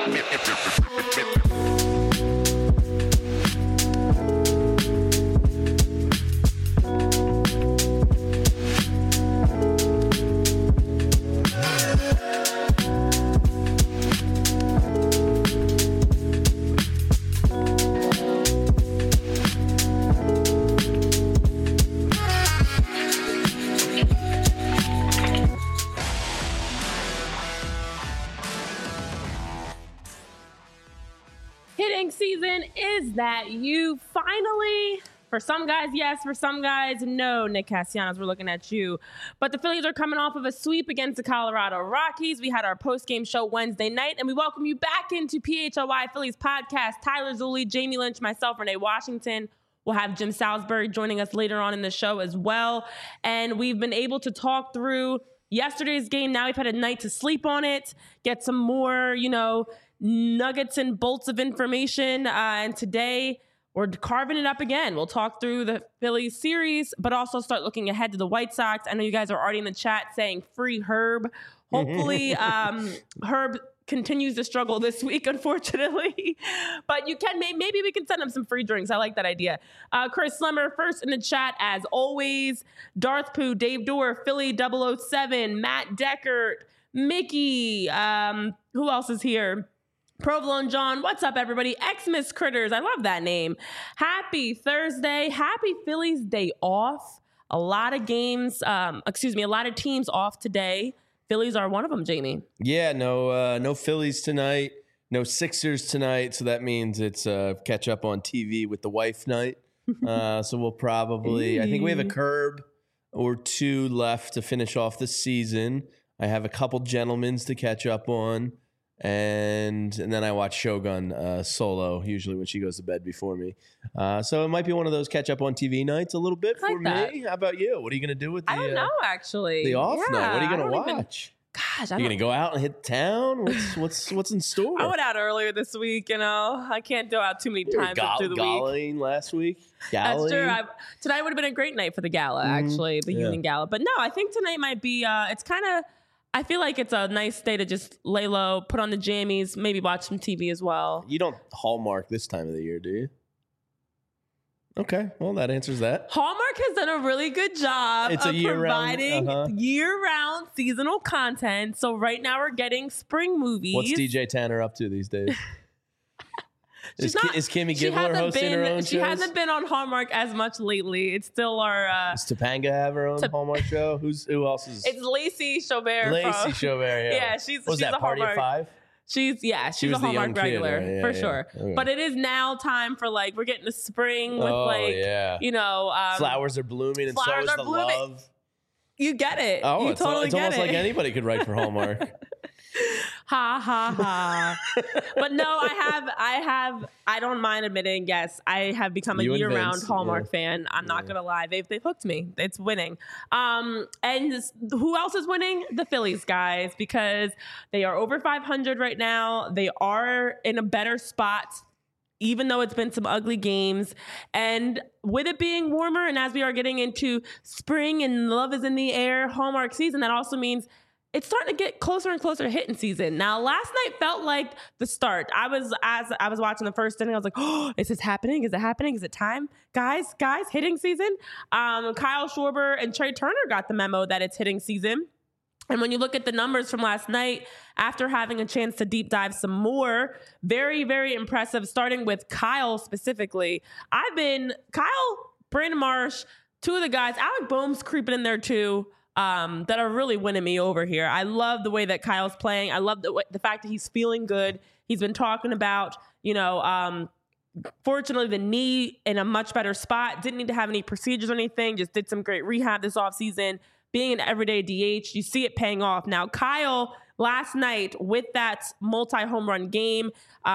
Hitting season is that you finally, for some guys, yes, for some guys, no, Nick Castellanos, we're looking at you. But the Phillies are coming off of a sweep against the Colorado Rockies. We had our post-game show Wednesday night, and we welcome you back into PHLY Phillies podcast. Tyler Zulli, Jamie Lynch, myself, Renee Washington. We'll have Jim Salisbury joining us later on in the show as well. And we've been able to talk through yesterday's game. Now we've had a night to sleep on it, get some more, nuggets and bolts of information. And today we're carving it up again. We'll talk through the Phillies series, but also start looking ahead to the White Sox. I know you guys are already in the chat saying free Herb. Hopefully Herb continues to struggle this week, unfortunately. But you can, maybe we can send him some free drinks. I like that idea. Chris Slemmer, first in the chat, as always. Darth Pooh, Dave Dorr, Philly 007, Matt Deckert, Mickey. Who else is here? Provolone John, what's up, everybody? Xmas Critters, I love that name. Happy Thursday. Happy Phillies Day off. A lot of games, a lot of teams off today. Phillies are one of them, Jamie. Yeah, no Phillies tonight, no Sixers tonight, so that means it's catch up on TV with the wife night. So we'll probably, I think we have a curb or two left to finish off the season. I have a couple gentlemen's to catch up on. And then I watch Shogun solo, usually when she goes to bed before me. So it might be one of those catch up on TV nights a little bit for me. How about you? What are you going to do with the I don't know, actually. The off night? What are you going to watch? Gosh, you're going to go out and hit town? What's in store? I went out earlier this week, I can't go out too many times through the week. Galling last week? That's true. Tonight would have been a great night for the gala, actually, the evening gala. But no, I think tonight might be, it's kind of, I feel like it's a nice day to just lay low, put on the jammies, maybe watch some TV as well. You don't Hallmark this time of the year, do you? Okay, well, that answers that. Hallmark has done a really good job of providing year-round seasonal content. So right now we're getting spring movies. What's DJ Tanner up to these days? Is Kimmy Gibbler hosting her own shows? She hasn't been on Hallmark as much lately. It's still our... Does Topanga have her own Hallmark show? Who else is... It's Lacey Chaubert. Lacey Chaubert, yeah. Yeah, she's that, a Party Hallmark. of Five? She's a Hallmark regular, for sure. Okay. But it is now time for, we're getting to spring with, flowers are blooming and so is the love. You get it. Oh, you it's totally get almost like anybody could write for Hallmark. Ha ha ha. But no, I don't mind admitting, yes, I have become a year-round Hallmark fan. I'm not gonna lie. They've hooked me. It's winning. And who else is winning? The Phillies, guys, because they are over 500 right now. They are in a better spot, even though it's been some ugly games. And with it being warmer, and as we are getting into spring and love is in the air, Hallmark season, that also means it's starting to get closer and closer to hitting season. Now, last night felt like the start. As I was watching the first inning, I was like, oh, is this happening? Is it happening? Is it time? Guys, hitting season. Kyle Schwarber and Trey Turner got the memo that it's hitting season. And when you look at the numbers from last night, after having a chance to deep dive some more, very, very impressive, starting with Kyle specifically. Kyle, Brandon Marsh, two of the guys, Alec Boehm's creeping in there too. That are really winning me over here. I love the way that Kyle's playing. I love the fact that he's feeling good. He's been talking about, fortunately the knee in a much better spot. Didn't need to have any procedures or anything. Just did some great rehab this offseason. Being an everyday DH, you see it paying off. Now, Kyle, last night with that multi-home run game,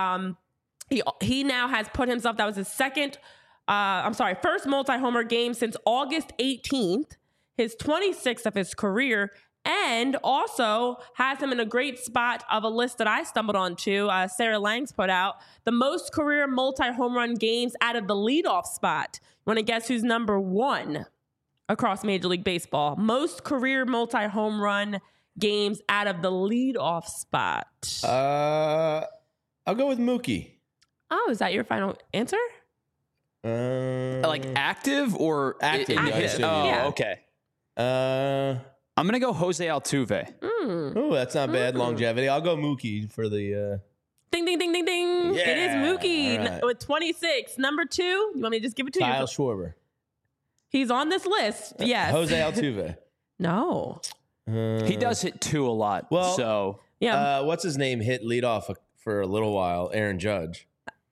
he now has put himself, that was his first multi-homer game since August 18th. His 26th of his career, and also has him in a great spot of a list that I stumbled onto, Sarah Langs put out, the most career multi-home run games out of the leadoff spot. You want to guess who's number one across Major League Baseball? Most career multi-home run games out of the leadoff spot. I'll go with Mookie. Oh, is that your final answer? Like active or Active, in I hit? assume, Oh, yeah. okay. I'm going to go Jose Altuve. Oh, that's not bad longevity. I'll go Mookie for the. Ding, ding, ding, ding, ding. Yeah, It is Mookie all right. with 26. Number 2, you want me to just give it to Kyle you? Schwarber. He's on this list. Yes. Jose Altuve. No. He does hit 2 a lot. Well, so Yeah. What's his name? Hit leadoff for a little while. Aaron Judge.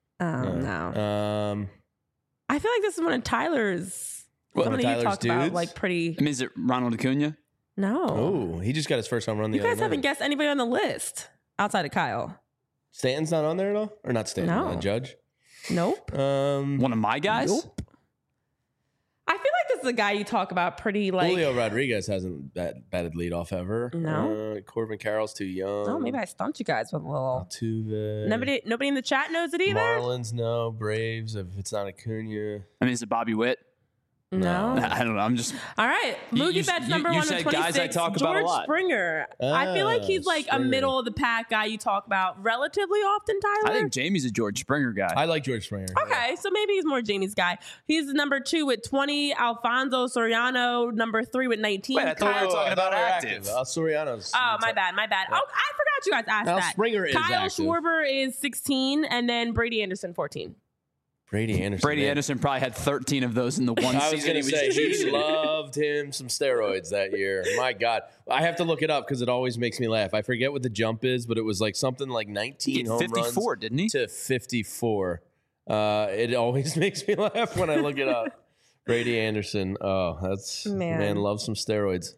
No. I feel like this is one of Tyler's. What, Some one of of you Tyler's talk about dudes? like pretty. I mean, is it Ronald Acuna? No. Oh, he just got his first home run the You other guys night. haven't guessed anybody on the list outside of Kyle. Stanton's not on there at all? Or not Stanton, No. Judge? Nope. One of my guys? Nope. I feel like this is a guy you talk about pretty like. Julio Rodriguez hasn't batted leadoff ever. No. Corbin Carroll's too young. Oh, maybe I stumped you guys with a little. Altuve. Nobody in the chat knows it either. Marlins, no. Braves, if it's not Acuna. I mean, is it Bobby Witt? No. I don't know. I'm just. All right. Mookie Betts number you 1 said with 26. guys I talk about a George lot. Springer. I feel like he's like Springer. a middle of the pack guy you talk about relatively often, Tyler. I think Jamie's a George Springer guy. I like George Springer. Okay, so maybe he's more Jamie's guy. He's number 2 with 20. Alfonso Soriano, number 3 with 19. Wait, I thought we were talking about active. Soriano's. Oh, my bad. Oh, I forgot you guys asked Al that. Springer is Kyle active. Schwarber is 16, and then Brady Anderson 14. Brady Anderson. Brady man. Anderson probably had 13 of those in the one I was season. going to say, he loved him some steroids that year. My God. I have to look it up because it always makes me laugh. I forget what the jump is, but it was like something like 19 home 54, runs didn't he? to 54. It always makes me laugh when I look it up. Brady Anderson. Oh, that's, man loves some steroids.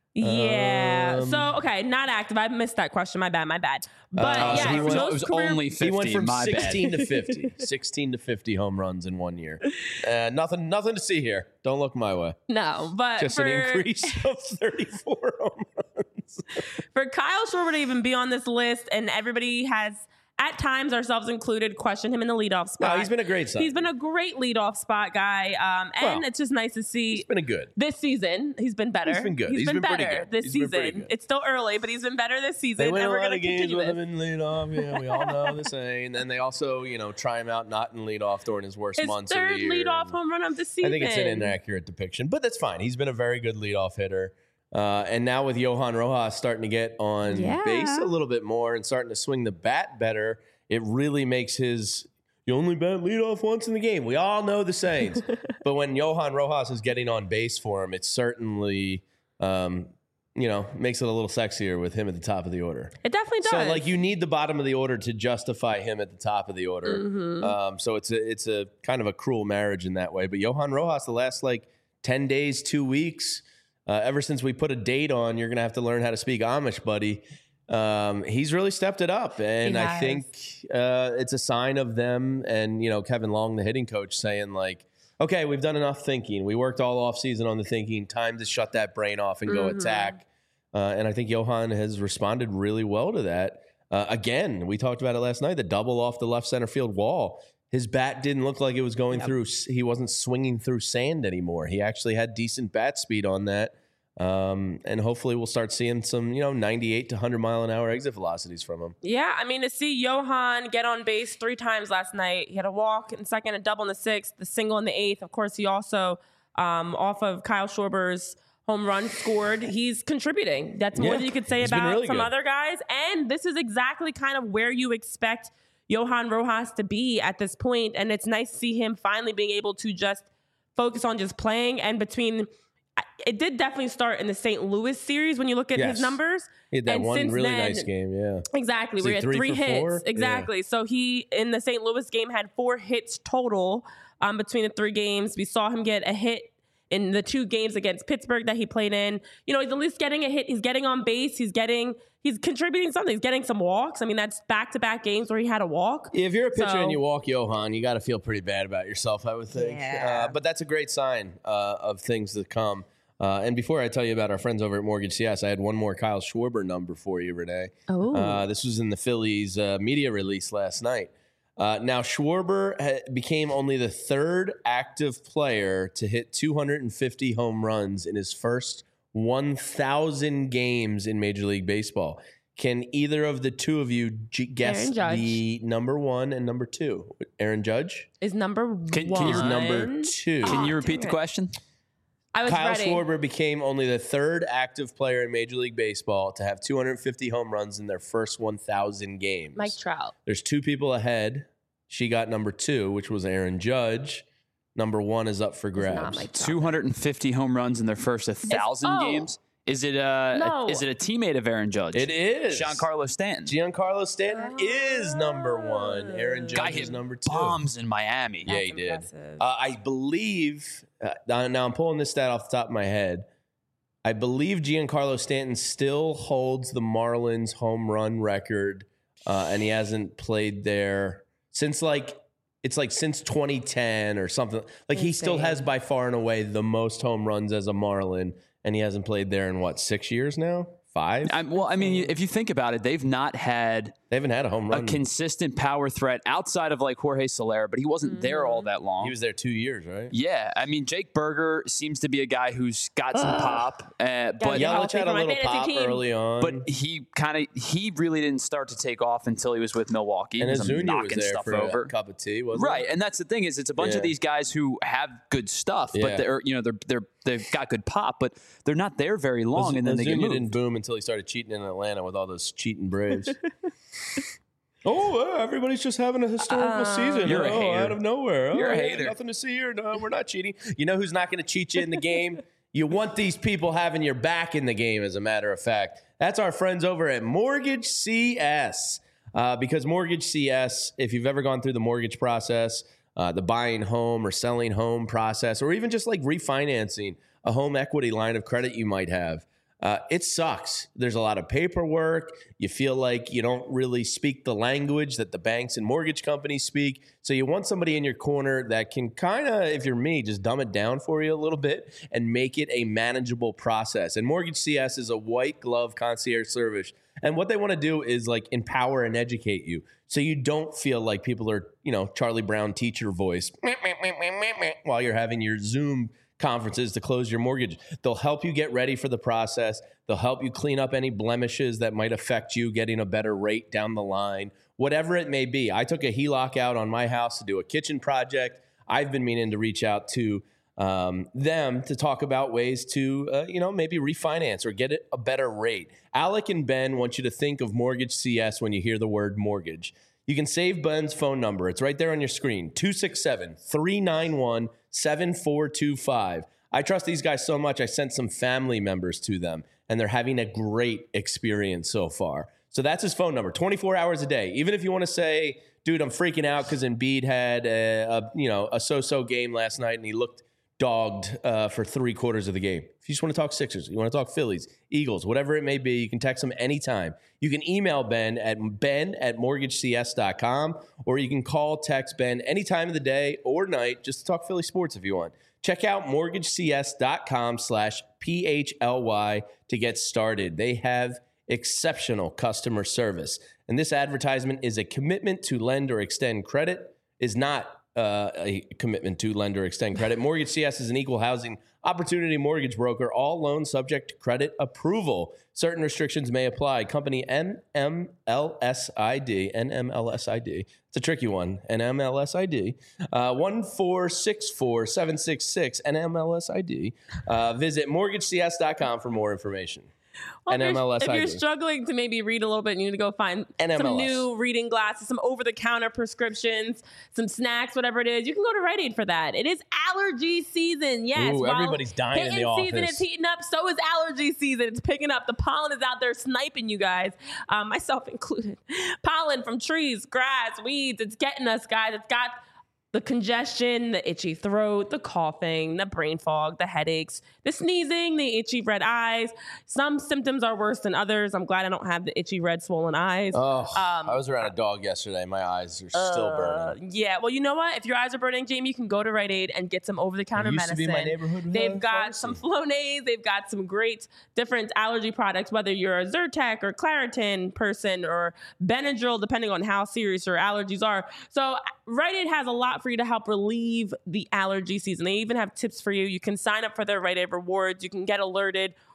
Yeah. So, okay, not active. I missed that question. My bad. But so yeah, he went- most it was career- only 50. He went from my 16 bad. to 50. 16 to 50 home runs in 1 year. Nothing to see here. Don't look my way. No, but Just an increase of 34 home runs. for Kyle Schwarber to even be on this list, and everybody has, at times, ourselves included, questioned him in the leadoff spot. No, he's been a great sign. He's been a great leadoff spot guy, and Well, it's just nice to see. He's been a good. This season, he's been better. He's been good. He's been pretty better good. this He's been pretty season. good. It's still early, but he's been better this season. They win and a we're lot going of to games continue with this. him in leadoff. Yeah, we all know the saying. And they also, try him out not in leadoff during his worst His months of third the year. leadoff home run of the season. I think it's an inaccurate depiction, but that's fine. He's been a very good leadoff hitter. And now with Johan Rojas starting to get on base a little bit more and starting to swing the bat better, it really makes his you only bat leadoff once in the game. We all know the sayings. But when Johan Rojas is getting on base for him, it certainly makes it a little sexier with him at the top of the order. It definitely does. So, you need the bottom of the order to justify him at the top of the order. Mm-hmm. So it's a kind of a cruel marriage in that way. But Johan Rojas, the last 10 days, 2 weeks, ever since we put a date on, you're going to have to learn how to speak Amish, buddy. He's really stepped it up. And I think it's a sign of them and, Kevin Long, the hitting coach, saying okay, we've done enough thinking. We worked all off season on the thinking. Time to shut that brain off and go attack. And I think Johan has responded really well to that. Again, we talked about it last night, the double off the left center field wall. His bat didn't look like it was going through. He wasn't swinging through sand anymore. He actually had decent bat speed on that. And hopefully we'll start seeing some, 98 to 100 mile an hour exit velocities from him. Yeah, I mean, to see Johan get on base 3 times last night. He had a walk in second, a double in the 6th, the single in the 8th. Of course, he also, off of Kyle Schwarber's home run, scored. He's contributing. That's more than you could say He's been about really some good. other guys. And this is exactly kind of where you expect Johan Rojas to be at this point. And it's nice to see him finally being able to just focus on just playing. And it did definitely start in the St. Louis series when you look at his numbers. He had that And one since really then- nice game, yeah. Exactly. Was We he had 3 3 for hits. 4? Exactly. So he, in the St. Louis game, had 4 hits total between the 3 games. We saw him get a hit in the 2 games against Pittsburgh that he played in. He's at least getting a hit. He's getting on base. He's contributing something. He's getting some walks. I mean, that's back-to-back games where he had a walk. If you're a pitcher and you walk Johan, you got to feel pretty bad about yourself, I would think. Yeah. But that's a great sign of things to come. And before I tell you about our friends over at Mortgage CS, I had one more Kyle Schwarber number for you, Renee. Oh. This was in the Phillies media release last night. Now, Schwarber became only the 3rd active player to hit 250 home runs in his first 1,000 games in Major League Baseball. Can either of the two of you guess the number 1 and number 2? Aaron Judge is number 1. Is number 2. Can you repeat the question? I was Kyle ready. Schwarber became only the 3rd active player in Major League Baseball to have 250 home runs in their first 1,000 games. Mike Trout. There's 2 people ahead. She got number 2, which was Aaron Judge. Number 1 is up for grabs. 250 home runs in their first 1,000 games. Is it is it a teammate of Aaron Judge? It is. Giancarlo Stanton. Giancarlo Stanton is number 1. Aaron Judge Guy is hit number 2. bombs in Miami. Yeah, he did. I believe, now I'm pulling this stat off the top of my head. I believe Giancarlo Stanton still holds the Marlins home run record, and he hasn't played there since since 2010 or something. Like he still has by far and away the most home runs as a Marlin. And he hasn't played there in 6 years now? 5? Well, I mean, if you think about it, they haven't had a home run, a consistent power threat outside of like Jorge Soler, but he wasn't there all that long. He was there 2 years, right? Yeah, I mean, Jake Berger seems to be a guy who's got some pop, but Yelich had a little pop early on. But he really didn't start to take off until he was with Milwaukee. And Ozuna was there for over. a cup of tea, wasn't right? And that's the thing is, it's a bunch of these guys who have good stuff, but they've got good pop, but they're not there very long, and then they get moved. Didn't boom until he started cheating in Atlanta with all those cheating Braves. Everybody's just having a historical season. You're a hater. Out of nowhere. You're a hater. Nothing to see here. No, we're not cheating. You know who's not going to cheat you in the game? You want these people having your back in the game, as a matter of fact. That's our friends over at Mortgage CS. Because Mortgage CS, if you've ever gone through the mortgage process, the buying home or selling home process, or even just like refinancing a home equity line of credit you might have, it sucks. There's a lot of paperwork. You feel like you don't really speak the language that the banks and mortgage companies speak. So you want somebody in your corner that can kind of, if you're me, just dumb it down for you a little bit and make it a manageable process. And Mortgage CS is a white glove concierge service. And what they want to do is like empower and educate you. So you don't feel like people are, Charlie Brown teacher voice while you're having your Zoom conferences to close your mortgage. They'll help you get ready for the process. They'll help you clean up any blemishes that might affect you getting a better rate down the line, whatever it may be. I took a HELOC out on my house to do a kitchen project. I've been meaning to reach out to them to talk about ways to, maybe refinance or get it a better rate. Alec and Ben want you to think of Mortgage CS when you hear the word mortgage. You can save Ben's phone number. It's right there on your screen, 267-391-7425. I trust these guys so much, I sent some family members to them, and they're having a great experience so far. So that's his phone number, 24 hours a day. Even if you want to say, dude, I'm freaking out because Embiid had a so-so game last night and he looked dogged for 3/4 of the game. If you just want to talk Sixers, you want to talk Phillies, Eagles, whatever it may be, you can text him anytime. You can email Ben at mortgagecs.com, or you can text Ben any time of the day or night just to talk Philly sports if you want. Check out mortgagecs.com/PHLY to get started. They have exceptional customer service. And this advertisement is a commitment to lend or extend credit, is not a commitment to lend or extend credit. Mortgage CS is an equal housing opportunity mortgage broker. All loans subject to credit approval. Certain restrictions may apply. Company NMLSID. It's a tricky one. NMLSID. 1464766 NMLSID. Visit mortgagecs.com for more information. Well, if you're struggling to maybe read a little bit, you need to go find some new reading glasses, some over-the-counter prescriptions, some snacks, whatever it is. You can go to Rite Aid for that. It is allergy season. Yes. Ooh, everybody's dying in the office. Season is heating up. So is allergy season. It's picking up. The pollen is out there sniping you guys, myself included. Pollen from trees, grass, weeds. It's getting us, guys. It's got the congestion, the itchy throat, the coughing, the brain fog, the headaches, the sneezing, the itchy red eyes. Some symptoms are worse than others. I'm glad I don't have the itchy red swollen eyes. Oh, I was around a dog yesterday. My eyes are still burning. Yeah, well, you know what? If your eyes are burning, Jamie, you can go to Rite Aid and get some over-the-counter medicine. Used to be my neighborhood. They've got some Flonase. They've got some great different allergy products, whether you're a Zyrtec or Claritin person or Benadryl, depending on how serious your allergies are. So Rite Aid has a lot for you to help relieve the allergy season. They even have tips for you. You can sign up for their Rite Aid rewards. You can get alerted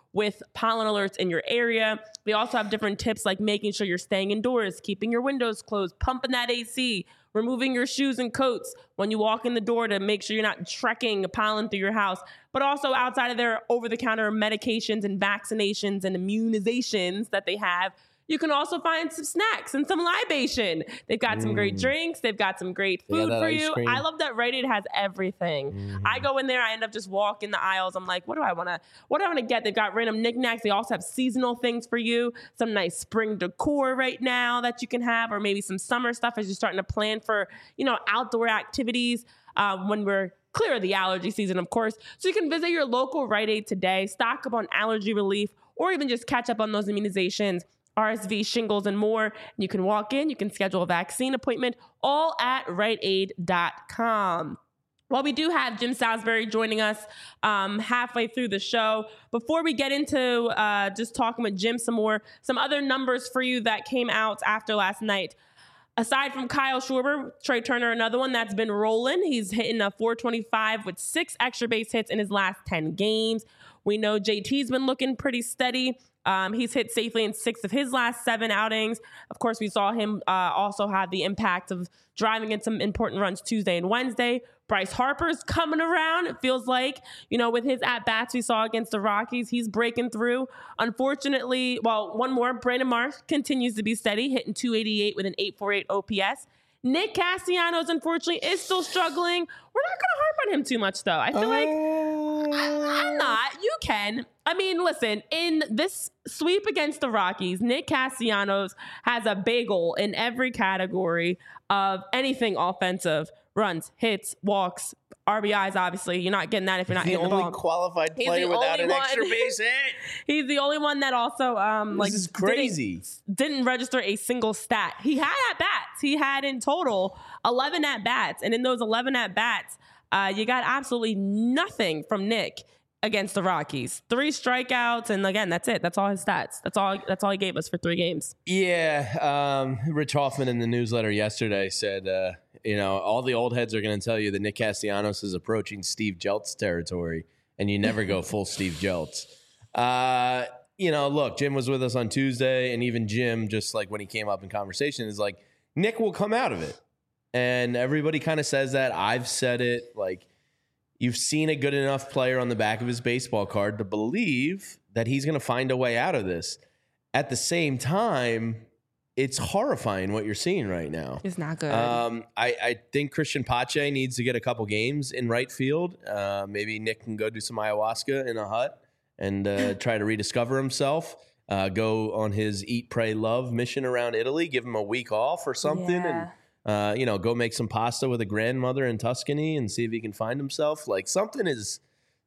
with pollen alerts in your area. They also have different tips like making sure you're staying indoors, keeping your windows closed, pumping that AC, removing your shoes and coats when you walk in the door to make sure you're not trekking pollen through your house. But also outside of their over-the-counter medications and vaccinations and immunizations that they have, you can also find some snacks and some libation. They've got some great drinks. They've got some great food for you. I love that Rite Aid has everything. I go in there, I end up just walking the aisles. I'm like, what do I want to get? They've got random knickknacks. They also have seasonal things for you. Some nice spring decor right now that you can have, or maybe some summer stuff as you're starting to plan for, outdoor activities when we're clear of the allergy season, of course. So you can visit your local Rite Aid today, stock up on allergy relief, or even just catch up on those immunizations, RSV, shingles, and more. And you can walk in, you can schedule a vaccine appointment, all at riteaid.com. Well, we do have Jim Salisbury joining us halfway through the show. Before we get into just talking with Jim some more, some other numbers for you that came out after last night. Aside from Kyle Schwarber, Trey Turner, another one that's been rolling. He's hitting a .425 with 6 extra base hits in his last 10 games. We know JT's been looking pretty steady. He's hit safely in 6 of his last 7 outings. Of course, we saw him also have the impact of driving in some important runs Tuesday and Wednesday. Bryce Harper's coming around, it feels like, with his at-bats we saw against the Rockies. He's breaking through. Unfortunately, one more, Brandon Marsh continues to be steady, hitting .288 with an .848 OPS. Nick Castellanos, unfortunately, is still struggling. We're not going to harp on him too much, though. I feel like I'm not. You can. I mean, listen, in this sweep against the Rockies, Nick Castellanos has a bagel in every category of anything offensive. Runs, hits, walks, RBIs, obviously. You're not getting that if you're not hitting the ball. The only qualified player without an extra base hit. He's the only one that also this is crazy. Didn't register a single stat. He had at-bats. He had in total 11 at-bats. And in those 11 at-bats, you got absolutely nothing from Nick against the Rockies. 3 strikeouts, and again, that's it. That's all his stats. That's all he gave us for 3 games. Yeah, Rich Hoffman in the newsletter yesterday said, all the old heads are going to tell you that Nick Castellanos is approaching Steve Jeltz territory, and you never go full Steve Jeltz. Look, Jim was with us on Tuesday, and even Jim, just like when he came up in conversation, is like, Nick will come out of it. And everybody kind of says that. I've said it, like, you've seen a good enough player on the back of his baseball card to believe that he's going to find a way out of this. At the same time, it's horrifying what you're seeing right now. It's not good. I think Christian Pache needs to get a couple games in right field. Maybe Nick can go do some ayahuasca in a hut and try to rediscover himself. Go on his Eat, Pray, Love mission around Italy. Give him a week off or something. Yeah. And go make some pasta with a grandmother in Tuscany and see if he can find himself. Like something's.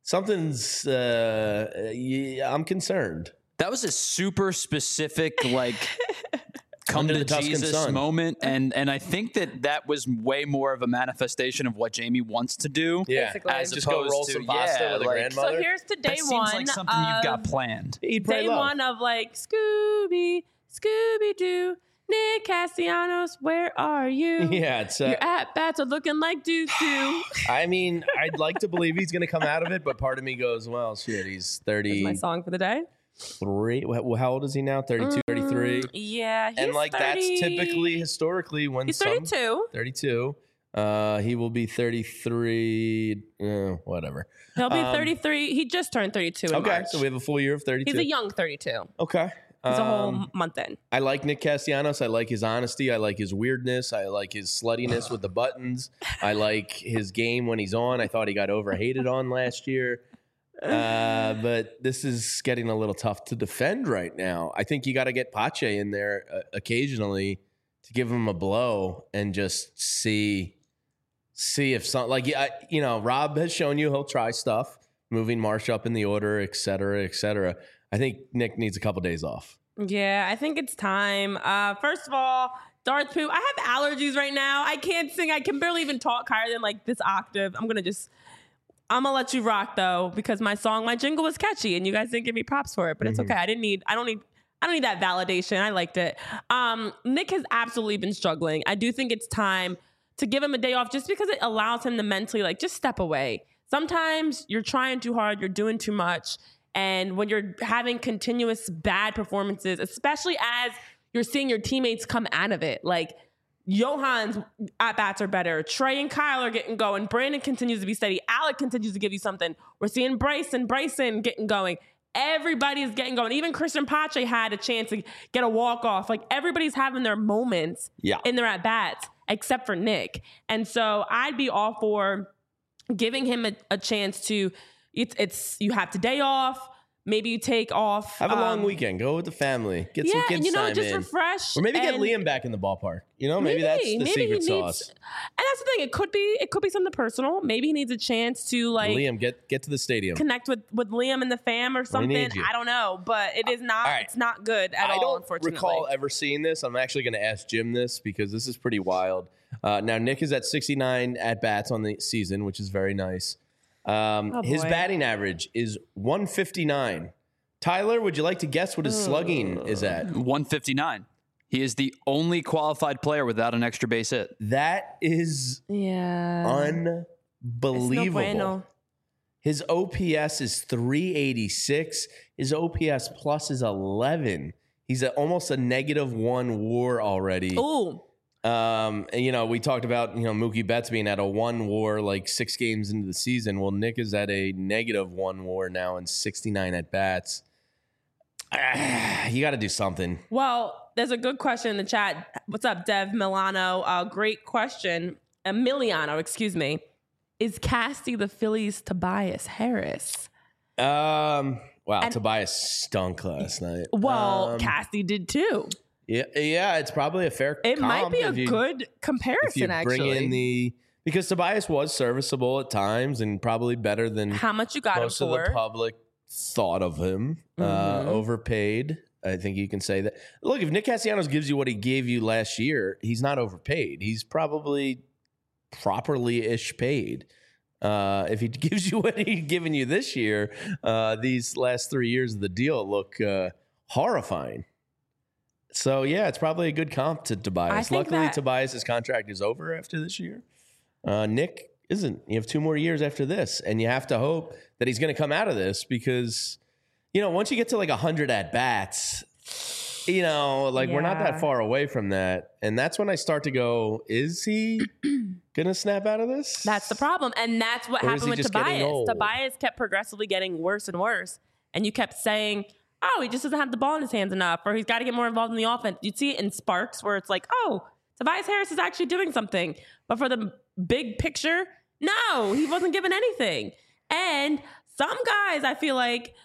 I'm concerned. That was a super specific, come Under to the Tuscan Jesus sun moment, and I think that was way more of a manifestation of what Jamie wants to do. Yeah, basically. As just go roll some pasta with a grandmother. So here's to day that one. Seems like something you've got planned. Eat, pray, Day love. one of Scooby-Doo, Nick Castellanos, where are you? Yeah, it's your at-bats are looking like doo-doo. I mean, I'd like to believe he's going to come out of it, but part of me goes, well, shit, he's 30. That's my song for the day. How old is he now? 32, 33? Yeah, he's And 30. That's typically, historically, when He's 32. 32. He will be 33, whatever. He'll be 33. He just turned 32 in Okay, March. so we have a full year of 32. He's a young 32. Okay. He's a whole month in. I like Nick Castellanos. I like his honesty. I like his weirdness. I like his sluttiness with the buttons. I like his game when he's on. I thought he got overhated on last year. But this is getting a little tough to defend right now. I think you got to get Pache in there occasionally to give him a blow and just see if something Rob has shown you he'll try stuff, moving Marsh up in the order, et cetera, et cetera. I think Nick needs a couple days off. Yeah, I think it's time. First of all, Darth Poop, I have allergies right now. I can't sing. I can barely even talk higher than this octave. I'm going to let you rock though, because my jingle was catchy and you guys didn't give me props for it, but it's okay. I don't need that validation. I liked it. Nick has absolutely been struggling. I do think it's time to give him a day off just because it allows him to mentally just step away. Sometimes you're trying too hard. You're doing too much. And when you're having continuous bad performances, especially as you're seeing your teammates come out of it, like Johan's at-bats are better. Trey and Kyle are getting going. Brandon continues to be steady. Alec continues to give you something. We're seeing Bryson getting going. Everybody's getting going. Even Christian Pache had a chance to get a walk-off. Like, everybody's having their moments in their at-bats, except for Nick. And so I'd be all for giving him a chance to, you have today off. Maybe you take off. Have a long weekend. Go with the family. Get some kids time just in. Refresh. Or maybe get Liam back in the ballpark. Maybe that's the secret sauce. And that's the thing. It could be something personal. Maybe he needs a chance to Liam, get to the stadium. Connect with Liam and the fam or something. I don't know. But it is not it's not good at all, unfortunately. I don't recall ever seeing this. I'm actually going to ask Jim this because this is pretty wild. Now, Nick is at 69 at-bats on the season, which is very nice. His batting average is 159. Tyler, would you like to guess what his slugging is at? 159. He is the only qualified player without an extra base hit. That is unbelievable. No bueno. His OPS is 386. His OPS plus is 11. He's almost a -1 WAR already. Ooh. And, we talked about, Mookie Betts being at a 1 WAR like 6 games into the season. Well, Nick is at a -1 WAR now in 69 at bats. You got to do something. Well, there's a good question in the chat. What's up, Dev Milano? Great question. Emiliano, excuse me. Is Casty the Phillies' Tobias Harris? Wow, Tobias stunk last night. Well, Casty did too. Yeah, it's probably a fair It might be a good comparison, actually. Because Tobias was serviceable at times and probably better than how much you got most him for. of the public thought of him. Overpaid. I think you can say that. Look, if Nick Castellanos gives you what he gave you last year, he's not overpaid. He's probably properly-ish paid. If he gives you what he's given you this year, these last 3 years of the deal look horrifying. So, yeah, it's probably a good comp to Tobias. Luckily, Tobias' contract is over after this year. Nick isn't. You have 2 more years after this, and you have to hope that he's going to come out of this because, once you get to like 100 at-bats, we're not that far away from that. And that's when I start to go, is he going to snap out of this? That's the problem. And that's what happened with Tobias. Tobias kept progressively getting worse and worse. And you kept saying, oh, he just doesn't have the ball in his hands enough, or he's got to get more involved in the offense. You'd see it in sparks where it's like, oh, Tobias Harris is actually doing something. But for the big picture, no, he wasn't given anything. And some guys, I feel like,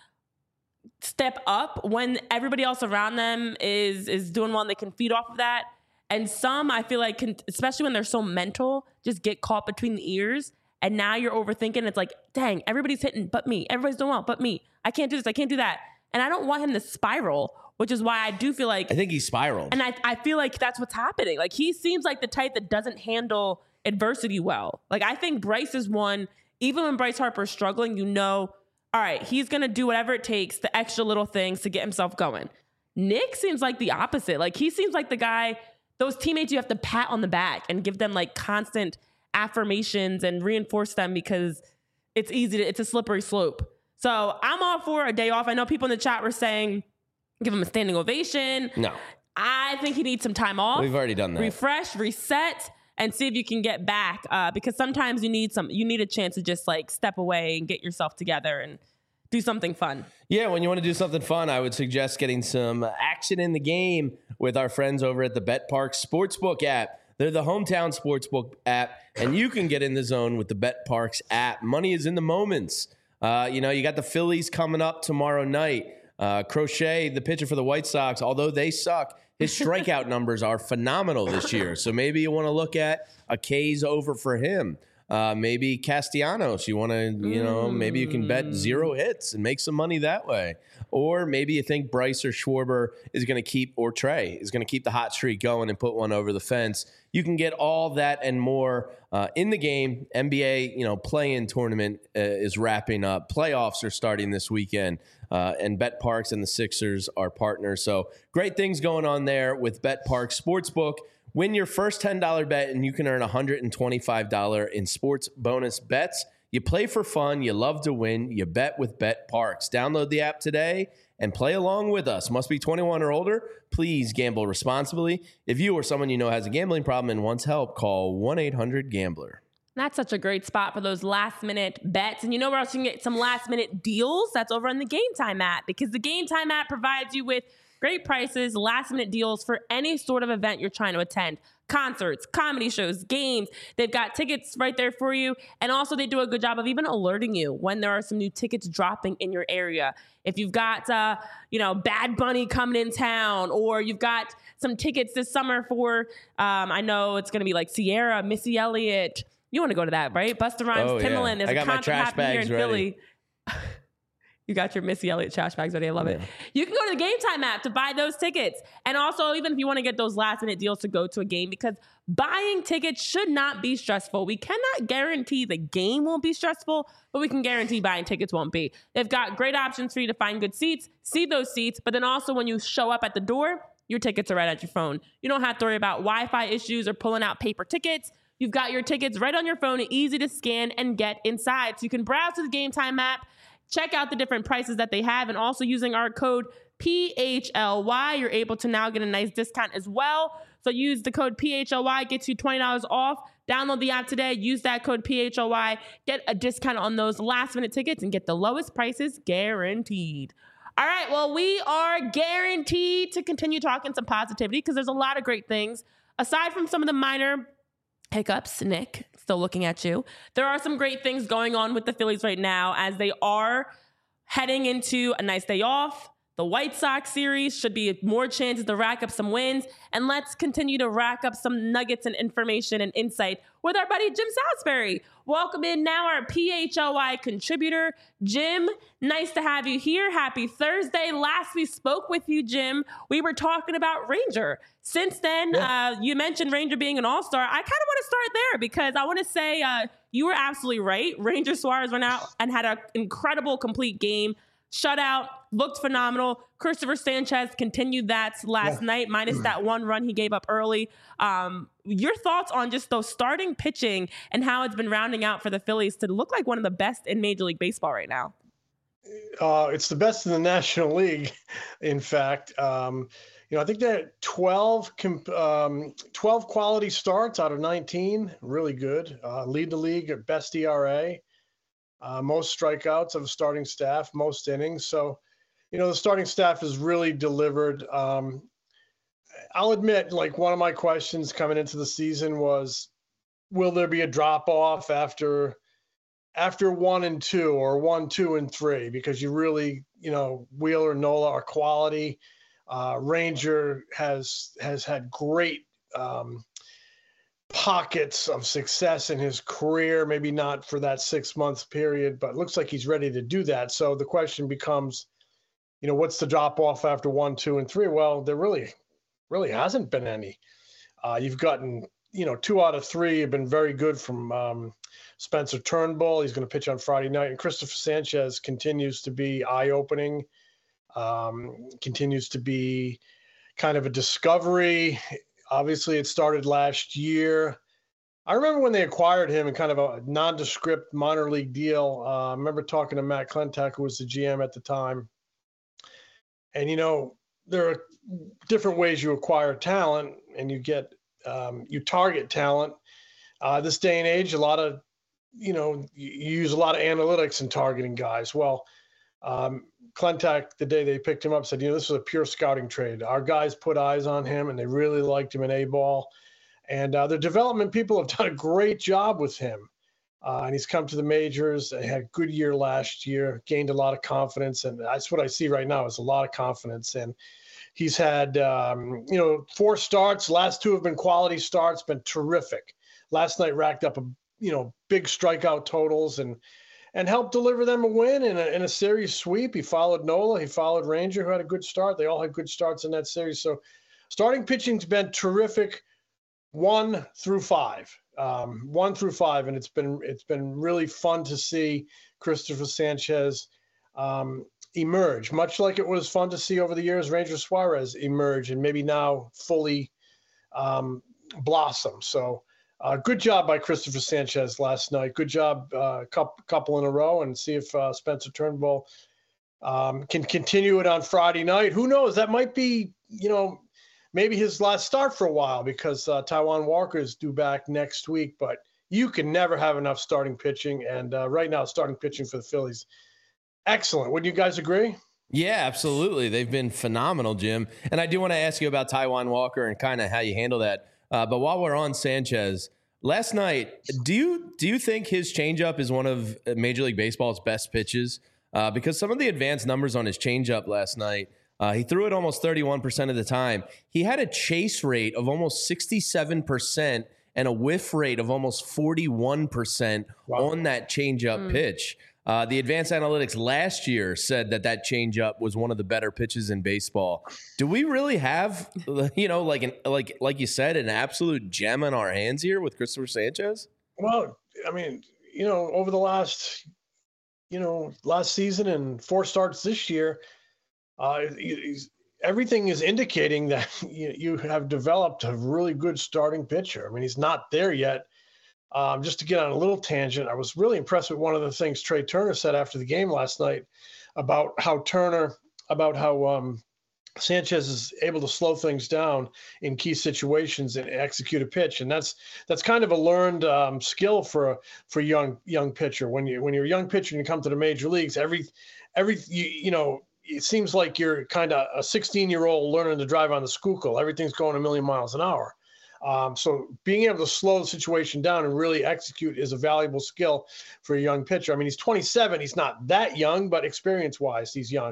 step up when everybody else around them is doing well and they can feed off of that. And some, I feel like, especially when they're so mental, just get caught between the ears. And now you're overthinking. It's like, dang, everybody's hitting but me. Everybody's doing well but me. I can't do this. I can't do that. And I don't want him to spiral, which is why I do feel like... I think he spiraled. And I feel like that's what's happening. Like, he seems like the type that doesn't handle adversity well. Like, I think Bryce is one, even when Bryce Harper's struggling, all right, he's going to do whatever it takes, the extra little things to get himself going. Nick seems like the opposite. Like, he seems like the guy, those teammates you have to pat on the back and give them, like, constant affirmations and reinforce them because it's it's a slippery slope. So I'm all for a day off. I know people in the chat were saying, give him a standing ovation. No. I think he needs some time off. We've already done that. Refresh, reset, and see if you can get back. Because sometimes you need a chance to just like step away and get yourself together and do something fun. Yeah, when you want to do something fun, I would suggest getting some action in the game with our friends over at the BetParx Sportsbook app. They're the hometown sportsbook app, and you can get in the zone with the BetParx app. Money is in the moments. You got the Phillies coming up tomorrow night. Crochet, the pitcher for the White Sox, although they suck, his strikeout numbers are phenomenal this year. So maybe you want to look at a K's over for him. Maybe Castellanos, you want to, maybe you can bet 0 hits and make some money that way. Or maybe you think Bryce or Schwarber is going to keep, or Trey is going to keep the hot streak going and put one over the fence. You can get all that and more in the game. NBA, play-in tournament is wrapping up. Playoffs are starting this weekend. And BetParx and the Sixers are partners. So great things going on there with BetParx Sportsbook. Win your first $10 bet and you can earn $125 in sports bonus bets. You play for fun, you love to win, you bet with BetParx. Download the app today and play along with us. Must be 21 or older. Please gamble responsibly. If you or someone you know has a gambling problem and wants help, call 1-800-GAMBLER. That's such a great spot for those last-minute bets. And you know where else you can get some last-minute deals? That's over on the Game Time app, because the Game Time app provides you with great prices, last-minute deals for any sort of event you're trying to attend. Concerts, comedy shows, games. They've got tickets right there for you. And also they do a good job of even alerting you when there are some new tickets dropping in your area. If you've got, Bad Bunny coming in town, or you've got some tickets this summer for, I know it's going to be like Sierra, Missy Elliott. You want to go to that, right? Busta Rhymes, Timbaland. There's a concert happening here in Philly. You got your Missy Elliott trash bags ready. I love it. You can go to the Game Time app to buy those tickets. And also, even if you want to get those last-minute deals to go to a game, because buying tickets should not be stressful. We cannot guarantee the game won't be stressful, but we can guarantee buying tickets won't be. They've got great options for you to find good seats, see those seats, but then also when you show up at the door, your tickets are right at your phone. You don't have to worry about Wi-Fi issues or pulling out paper tickets. You've got your tickets right on your phone, easy to scan and get inside. So you can browse to the Game Time app, check out the different prices that they have, and also using our code PHLY, you're able to now get a nice discount as well. So use the code PHLY, gets you $20 off. Download the app today, use that code PHLY, get a discount on those last-minute tickets, and get the lowest prices guaranteed. All right, well, we are guaranteed to continue talking some positivity because there's a lot of great things. Aside from some of the minor hiccups, Nick, still looking at you. There are some great things going on with the Phillies right now as they are heading into a nice day off. The White Sox series should be more chances to rack up some wins. And let's continue to rack up some nuggets and information and insight with our buddy Jim Salisbury. Welcome in now our PHLY contributor. Jim, nice to have you here. Happy Thursday. Last we spoke with you, Jim, we were talking about Ranger. Since then, you mentioned Ranger being an all-star. I kind of want to start there because I want to say you were absolutely right. Ranger Suarez went out and had an incredible complete game. Shutout, looked phenomenal. Christopher Sanchez continued that last night, minus that one run he gave up early. Your thoughts on just those starting pitching and how it's been rounding out for the Phillies to look like one of the best in Major League Baseball right now? It's the best in the National League, in fact. I think they're 12 quality starts out of 19. Really good. Lead the league at best ERA. Most strikeouts of the starting staff, most innings. So, the starting staff has really delivered. I'll admit, one of my questions coming into the season was, will there be a drop off after 1 and 2 or 1, 2, and 3? Because you really, Wheeler and Nola are quality. Ranger has had great pockets of success in his career, maybe not for that 6-month period, but it looks like he's ready to do that. So the question becomes, what's the drop off after 1, 2, and 3? Well, there really hasn't been any. You've gotten, 2 out of 3 have been very good from Spencer Turnbull. He's going to pitch on Friday night, and Christopher Sanchez continues to be eye-opening, continues to be kind of a discovery. Obviously, it started last year. I remember when they acquired him in kind of a nondescript minor league deal. I remember talking to Matt Klentak, who was the GM at the time. And, there are different ways you acquire talent and you target talent. This day and age, you use a lot of analytics in targeting guys. Well, Klentak, the day they picked him up, said, this is a pure scouting trade. Our guys put eyes on him, and they really liked him in A-ball. And the development people have done a great job with him. And he's come to the majors. He had a good year last year, gained a lot of confidence. And that's what I see right now is a lot of confidence. And he's had, 4 starts. Last 2 have been quality starts, been terrific. Last night racked up, big strikeout totals and helped deliver them a win in a series sweep. He followed Nola. He followed Ranger, who had a good start. They all had good starts in that series. So starting pitching's been terrific 1 through 5. 1 through 5, and it's been really fun to see Christopher Sanchez emerge, much like it was fun to see over the years Ranger Suarez emerge and maybe now fully blossom. So Good job by Christopher Sanchez last night. Good job, couple in a row, and see if Spencer Turnbull can continue it on Friday night. Who knows? That might be, maybe his last start for a while, because Taijuan Walker is due back next week. But you can never have enough starting pitching, and right now starting pitching for the Phillies, excellent. Wouldn't you guys agree? Yeah, absolutely. They've been phenomenal, Jim. And I do want to ask you about Taijuan Walker and kind of how you handle that. But while we're on Sanchez, last night, do you think his changeup is one of Major League Baseball's best pitches? Because some of the advanced numbers on his changeup last night, he threw it almost 31% of the time. He had a chase rate of almost 67% and a whiff rate of almost 41% on that changeup pitch. The advanced analytics last year said that changeup was one of the better pitches in baseball. Do we really have, like you said, an absolute gem in our hands here with Christopher Sanchez? Well, I mean, over the last season and 4 starts this year, everything is indicating that you have developed a really good starting pitcher. I mean, he's not there yet. Just to get on a little tangent, I was really impressed with one of the things Trey Turner said after the game last night about how Sanchez is able to slow things down in key situations and execute a pitch, and that's kind of a learned skill for young pitcher. When you're a young pitcher and you come to the major leagues, it seems like you're kind of a 16-year-old learning to drive on the Schuylkill. Everything's going a million miles an hour. So being able to slow the situation down and really execute is a valuable skill for a young pitcher. I mean, he's 27. He's not that young, but experience-wise, he's young.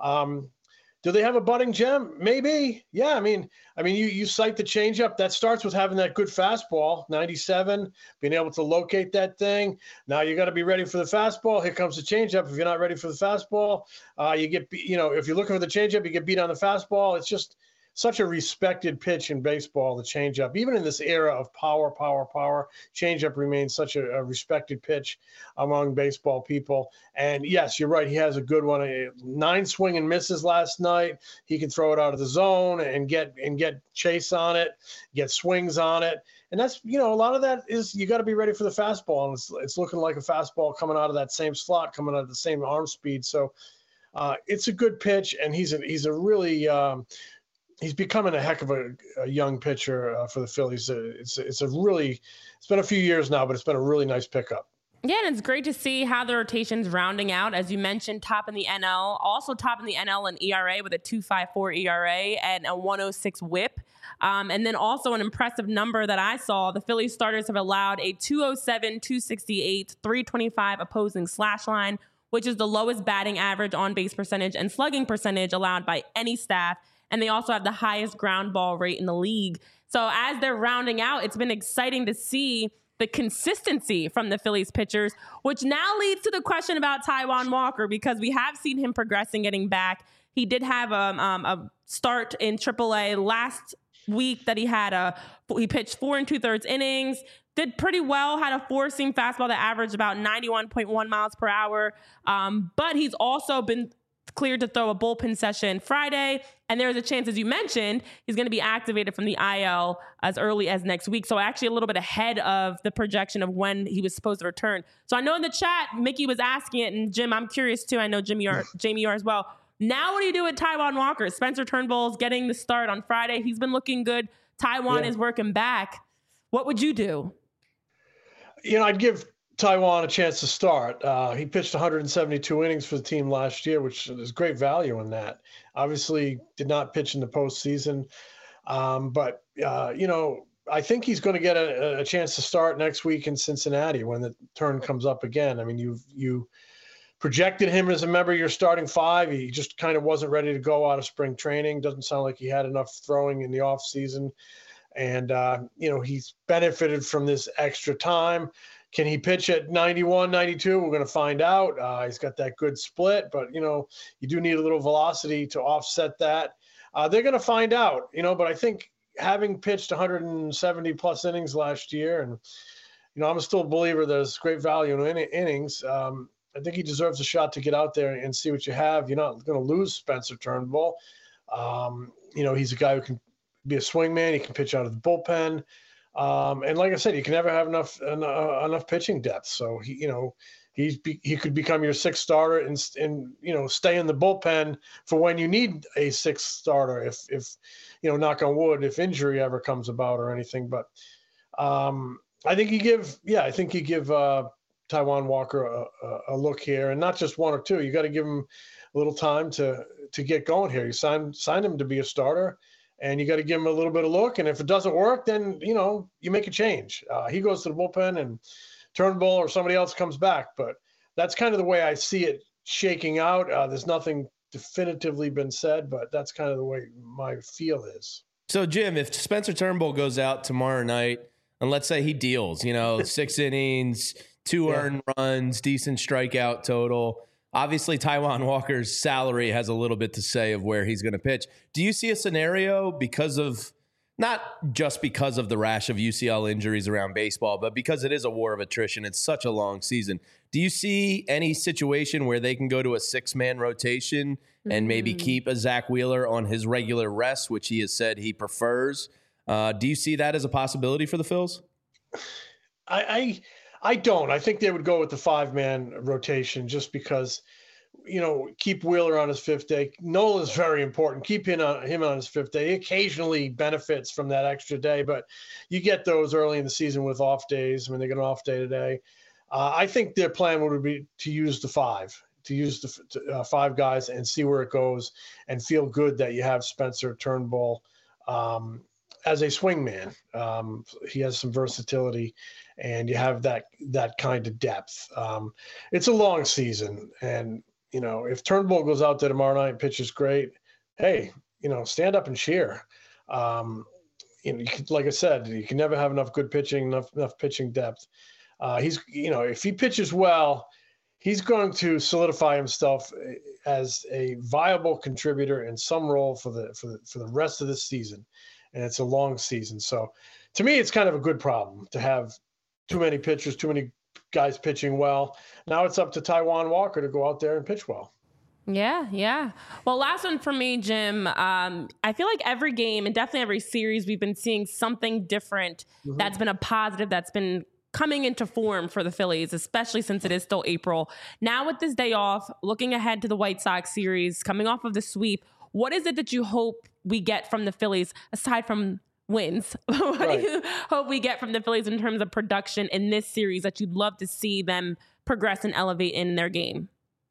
Do they have a budding gem? Maybe. Yeah. I mean, you cite the changeup. That starts with having that good fastball, 97, being able to locate that thing. Now you got to be ready for the fastball. Here comes the changeup. If you're not ready for the fastball, if you're looking for the changeup, you get beat on the fastball. It's just such a respected pitch in baseball, the changeup. Even in this era of power, changeup remains such a respected pitch among baseball people. And yes, you're right. He has a good one. 9 swing and misses last night. He can throw it out of the zone and get chase on it, get swings on it. And that's, a lot of that is you got to be ready for the fastball. And it's looking like a fastball coming out of that same slot, coming out of the same arm speed. So it's a good pitch. And he's a really, he's becoming a heck of a young pitcher for the Phillies. It's been a few years now, but it's been a really nice pickup. Yeah, and it's great to see how the rotation's rounding out. As you mentioned, top in the NL, also top in the NL in ERA with a 2.54 ERA and a 106 WHIP. And then also an impressive number that I saw, the Phillies starters have allowed a 207, 268, 325 opposing slash line, which is the lowest batting average, on base percentage, and slugging percentage allowed by any staff. And they also have the highest ground ball rate in the league. So as they're rounding out, it's been exciting to see the consistency from the Phillies pitchers, which now leads to the question about Taijuan Walker, because we have seen him progressing, getting back. He did have a start in AAA last week that he pitched 4 2/3 innings, did pretty well, had a 4-seam fastball that averaged about 91.1 miles per hour. But he's also been cleared to throw a bullpen session Friday. And there's a chance, as you mentioned, he's going to be activated from the IL as early as next week. So actually a little bit ahead of the projection of when he was supposed to return. So I know in the chat, Mickey was asking it, and Jim, I'm curious too. I know Jamie, you are as well. Now what do you do with Taijuan Walker? Spencer Turnbull's getting the start on Friday. He's been looking good. Taijuan is working back. What would you do? I'd give Taijuan a chance to start. He pitched 172 innings for the team last year, which is great value in that. Obviously, did not pitch in the postseason, but I think he's going to get a chance to start next week in Cincinnati when the turn comes up again. I mean, you projected him as a member of your starting 5. He just kind of wasn't ready to go out of spring training. Doesn't sound like he had enough throwing in the off season, and he's benefited from this extra time. Can he pitch at 91, 92? We're going to find out. He's got that good split, but, you do need a little velocity to offset that. They're going to find out, but I think having pitched 170-plus innings last year, and, I'm still a believer there's great value in innings. I think he deserves a shot to get out there and see what you have. You're not going to lose Spencer Turnbull. He's a guy who can be a swingman. He can pitch out of the bullpen. And like I said, you can never have enough pitching depth. So he could become your sixth starter and stay in the bullpen for when you need a sixth starter. If knock on wood, if injury ever comes about or anything. But I think you give Taijuan Walker a look here, and not just one or two. You got to give him a little time to get going here. You sign him to be a starter, and you got to give him a little bit of look. And if it doesn't work, then you make a change. He goes to the bullpen, and Turnbull or somebody else comes back. But that's kind of the way I see it shaking out. There's nothing definitively been said, but that's kind of the way my feel is. So, Jim, if Spencer Turnbull goes out tomorrow night, and let's say he deals, 6 innings, 2 earned runs, decent strikeout total. Obviously, Taijuan Walker's salary has a little bit to say of where he's going to pitch. Do you see a scenario not just because of the rash of UCL injuries around baseball, but because it is a war of attrition, it's such a long season. Do you see any situation where they can go to a 6-man rotation and maybe keep a Zach Wheeler on his regular rest, which he has said he prefers? Do you see that as a possibility for the Phils? I don't. I think they would go with the 5-man rotation just because, keep Wheeler on his 5th day. Nola is very important. Keep him on his 5th day. He occasionally benefits from that extra day, but you get those early in the season with off days. I mean, they get an off day today. I think their plan would be to use the 5, to use the 5 guys and see where it goes and feel good that you have Spencer Turnbull as a swingman. He has some versatility, and you have that kind of depth. It's a long season, and if Turnbull goes out there tomorrow night and pitches great, hey, stand up and cheer. Like I said, you can never have enough good pitching, enough pitching depth. If he pitches well, he's going to solidify himself as a viable contributor in some role for the rest of the season. And it's a long season. So to me, it's kind of a good problem to have too many pitchers, too many guys pitching well. Now it's up to Taijuan Walker to go out there and pitch well. Yeah. Well, last one for me, Jim. I feel like every game and definitely every series, we've been seeing something different that's been a positive, that's been coming into form for the Phillies, especially since it is still April. Now with this day off, looking ahead to the White Sox series, coming off of the sweep, what is it that you hope we get from the Phillies aside from wins? What do you hope we get from the Phillies in terms of production in this series that you'd love to see them progress and elevate in their game?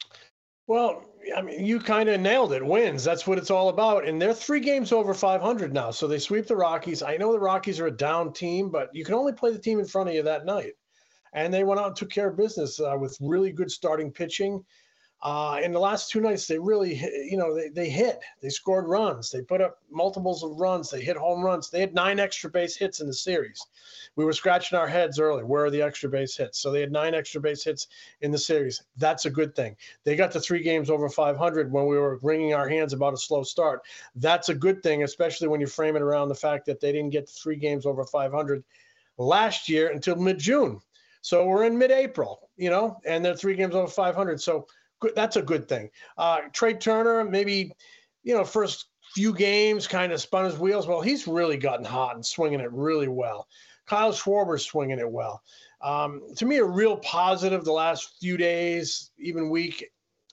Well, I mean, you kind of nailed it. Wins. That's what it's all about. And they're 3 games over 500 now. So they sweep the Rockies. I know the Rockies are a down team, but you can only play the team in front of you that night. And they went out and took care of business with really good starting pitching. In the last 2 nights, they really, they hit. They scored runs. They put up multiples of runs. They hit home runs. They had 9 extra base hits in the series. We were scratching our heads early. Where are the extra base hits? So they had 9 extra base hits in the series. That's a good thing. They got to 3 games over 500 when we were wringing our hands about a slow start. That's a good thing, especially when you frame it around the fact that they didn't get to 3 games over 500 last year until mid-June. So we're in mid-April, and they're 3 games over 500. So that's a good thing. Trey Turner, maybe, first few games kind of spun his wheels. Well, he's really gotten hot and swinging it really well. Kyle Schwarber's swinging it well. To me, a real positive the last few days, even week.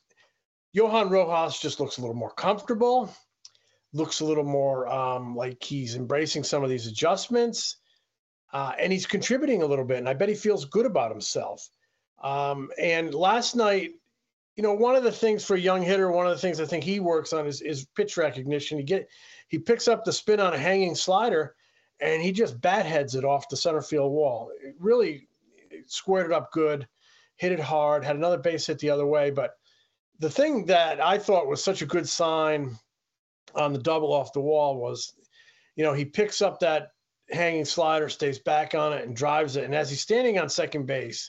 Johan Rojas just looks a little more comfortable, looks a little more like he's embracing some of these adjustments, and he's contributing a little bit, and I bet he feels good about himself. And last night, one of the things for a young hitter, one of the things I think he works on is pitch recognition. He picks up the spin on a hanging slider, and he just bat heads it off the center field wall. It really squared it up good, hit it hard, had another base hit the other way. But the thing that I thought was such a good sign on the double off the wall was, he picks up that hanging slider, stays back on it, and drives it. And as he's standing on second base,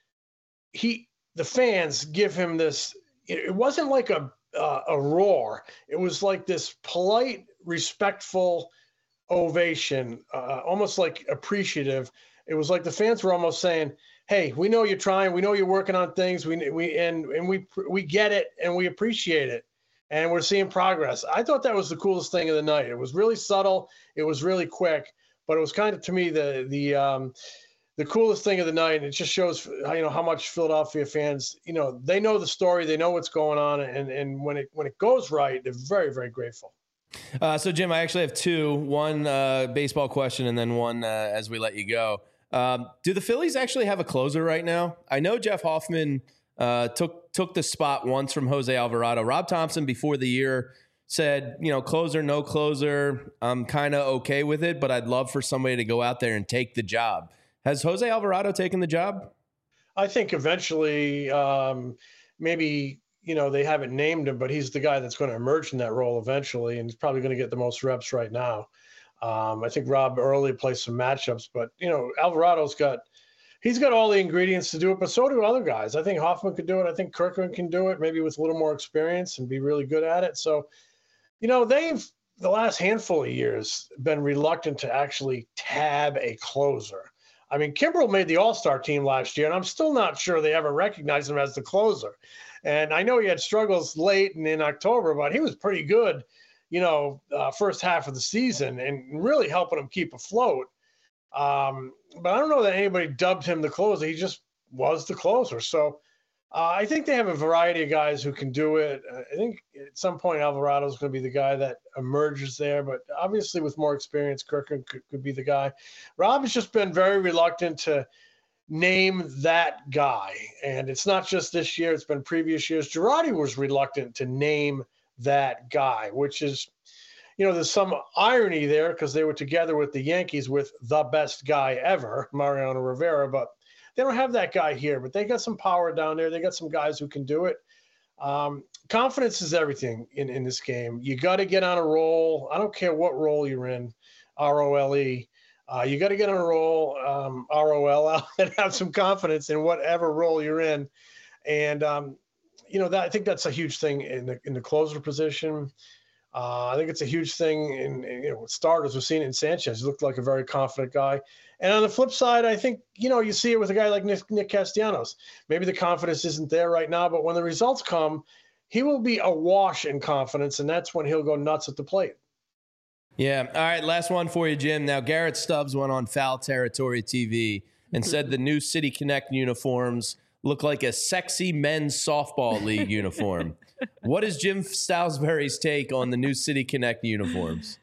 the fans give him this. It wasn't like a roar. It was like this polite, respectful ovation, almost like appreciative. It was like the fans were almost saying, "Hey, we know you're trying. We know you're working on things. We get it, and we appreciate it, and we're seeing progress." I thought that was the coolest thing of the night. It was really subtle. It was really quick, But it was kind of, to me, the coolest thing of the night. And it just shows, how much Philadelphia fans, they know the story, they know what's going on, and when it goes right, they're very, very grateful. So, Jim, I actually have two. One baseball question and then one as we let you go. Do the Phillies actually have a closer right now? I know Jeff Hoffman took the spot once from Jose Alvarado. Rob Thompson, before the year, said, closer, no closer. I'm kind of okay with it, but I'd love for somebody to go out there and take the job. Has Jose Alvarado taken the job? I think eventually, maybe, they haven't named him, but he's the guy that's going to emerge in that role eventually, and he's probably going to get the most reps right now. I think Rob early plays some matchups, but, Alvarado's got all the ingredients to do it, but so do other guys. I think Hoffman could do it. I think Kirkman can do it, maybe with a little more experience and be really good at it. So, they've, the last handful of years, been reluctant to actually tab a closer. I mean, Kimbrel made the All-Star team last year, and I'm still not sure they ever recognized him as the closer. And I know he had struggles late and in October, but he was pretty good, first half of the season and really helping him keep afloat. But I don't know that anybody dubbed him the closer. He just was the closer. So I think they have a variety of guys who can do it. I think at some point Alvarado is going to be the guy that emerges there, but obviously with more experience, Kirkland could be the guy. Rob has just been very reluctant to name that guy, and it's not just this year, it's been previous years. Girardi was reluctant to name that guy, which is, there's some irony there because they were together with the Yankees with the best guy ever, Mariano Rivera, but they don't have that guy here, but they got some power down there. They got some guys who can do it. Confidence is everything in this game. You got to get on a roll. I don't care what role you're in, R-O-L-E. You got to get on a roll, R-O-L-L, and have some confidence in whatever role you're in. And, I think that's a huge thing in the closer position. I think it's a huge thing in with starters. We've seen it in Sanchez. He looked like a very confident guy. And on the flip side, I think, you see it with a guy like Nick Castellanos. Maybe the confidence isn't there right now, but when the results come, he will be awash in confidence, and that's when he'll go nuts at the plate. Yeah. All right, last one for you, Jim. Now, Garrett Stubbs went on Foul Territory TV and said the new City Connect uniforms look like a sexy men's softball league uniform. What is Jim Salisbury's take on the new City Connect uniforms?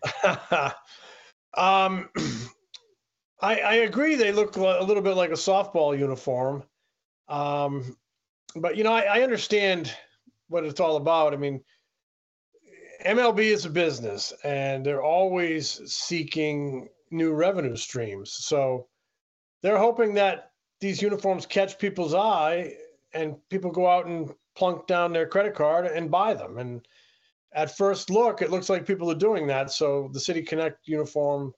I agree they look a little bit like a softball uniform. But, I understand what it's all about. I mean, MLB is a business, and they're always seeking new revenue streams. So they're hoping that these uniforms catch people's eye and people go out and plunk down their credit card and buy them. And at first look, it looks like people are doing that. So the City Connect uniform,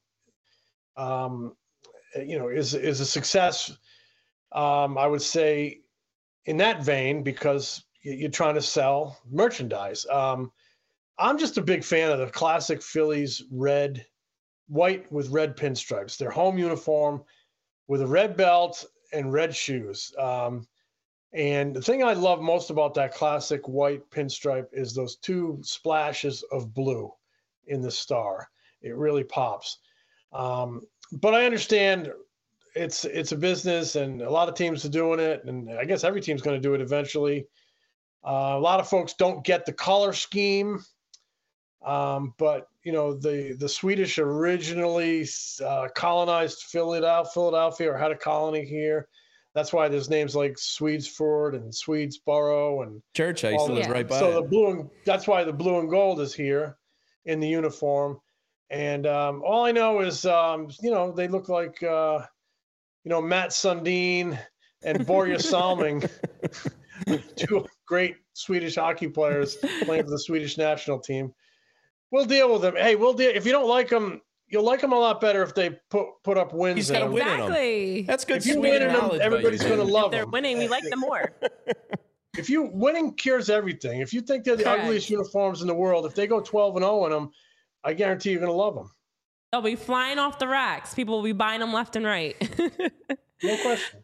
is a success, I would say, in that vein, because you're trying to sell merchandise. I'm just a big fan of the classic Phillies white with red pinstripes. Their home uniform with a red belt and red shoes. And the thing I love most about that classic white pinstripe is those two splashes of blue in the star. It really pops. But I understand it's a business, and a lot of teams are doing it, and I guess every team's going to do it eventually. A lot of folks don't get the color scheme, but the Swedish originally colonized Philadelphia, or had a colony here. That's why there's names like Swedesford and Swedesboro and Church. I used to live right by. So that's why the blue and gold is here in the uniform. And all I know is, they look like, Matt Sundin and Borja Salming, two great Swedish hockey players playing for the Swedish national team. We'll deal with them. Hey, we'll deal. If you don't like them, you'll like them a lot better if they put up wins. He's got to win them. That's good. If you win them, everybody's going to love them. If they're winning, we like them more. If you winning cures everything. If you think they're the ugliest uniforms in the world, if they go 12-0 in them, I guarantee you're going to love them. They'll be flying off the racks. People will be buying them left and right. No question.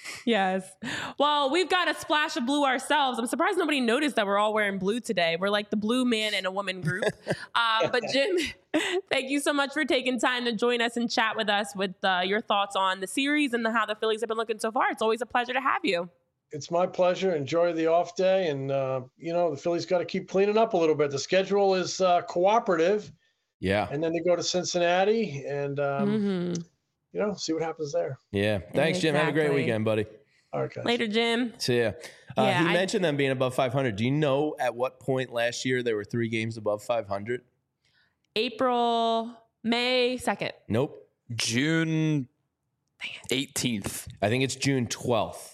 Yes. Well, we've got a splash of blue ourselves. I'm surprised nobody noticed that we're all wearing blue today. We're like the blue man and a woman group. But Jim, thank you so much for taking time to join us and chat with us with your thoughts on the series and how the Phillies have been looking so far. It's always a pleasure to have you. It's my pleasure. Enjoy the off day. And, the Phillies got to keep cleaning up a little bit. The schedule is cooperative. Yeah. And then they go to Cincinnati and, see what happens there. Yeah. Thanks, Jim. Have a great weekend, buddy. All right, guys. Later, Jim. See ya. He mentioned them being above 500. Do you know at what point last year there were 3 games above 500? May 2nd. Nope. June 18th. I think it's June 12th.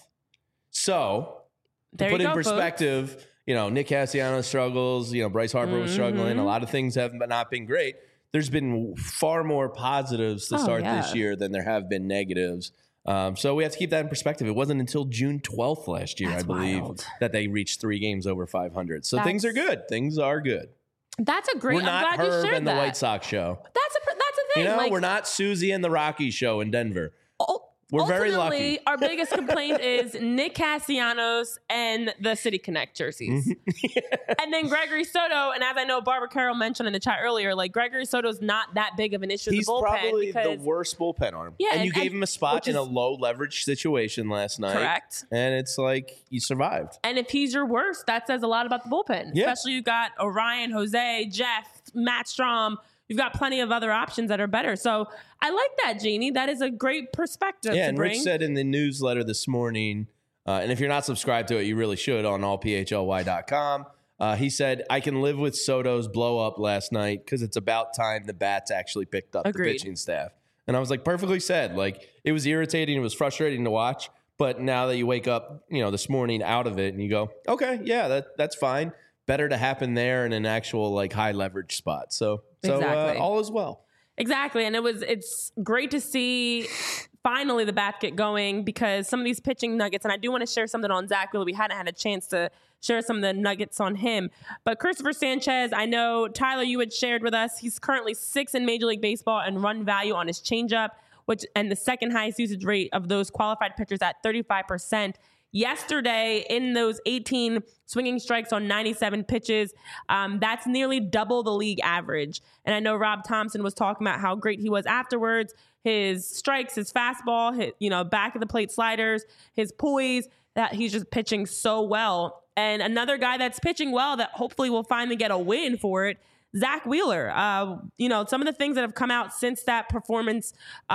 So, to There put you in go, perspective, folks. Nick Castellanos struggles, Bryce Harper was struggling. A lot of things have not been great. There's been far more positives to start this year than there have been negatives. So we have to keep that in perspective. It wasn't until June 12th last year, I believe, that they reached 3 games over 500. So things are good. Things are good. That's a great. We're not I'm glad Herb you shared and that. the White Sox show. That's a thing. We're not Susie and the Rockies show in Denver. We're very lucky. Our biggest complaint is Nick Castellanos and the City Connect jerseys. And then Gregory Soto, and as I know Barbara Carroll mentioned in the chat earlier, like Gregory Soto's not that big of an issue in the bullpen. He's probably the worst bullpen arm. Yeah, and you gave him a spot in a low leverage situation last night. Correct. And it's like you survived. And if he's your worst, that says a lot about the bullpen. Yeah. Especially you've got Orion, Jose, Jeff, Matt Strahm. You've got plenty of other options that are better. So I like that, Jeannie. That is a great perspective to and bring. Rich said in the newsletter this morning, and if you're not subscribed to it, you really should on allphly.com. He said, I can live with Soto's blow up last night because it's about time the bats actually picked up the pitching staff. And I was like, perfectly said. Like, it was irritating. It was frustrating to watch. But now that you wake up, this morning out of it and you go, okay, yeah, that's fine. Better to happen there in an actual high leverage spot. So all is well. Exactly. And it's great to see finally the bat get going because some of these pitching nuggets, and I do want to share something on Zach Wheeler. We hadn't had a chance to share some of the nuggets on him. But Christopher Sanchez, I know, Tyler, you had shared with us, he's currently 6th in Major League Baseball and run value on his changeup, and the second highest usage rate of those qualified pitchers at 35%. Yesterday, in those 18 swinging strikes on 97 pitches, that's nearly double the league average. And I know Rob Thompson was talking about how great he was afterwards. His strikes, his fastball, his, back of the plate sliders, his poise, that he's just pitching so well. And another guy that's pitching well that hopefully will finally get a win for it, Zach Wheeler. Some of the things that have come out since that performance,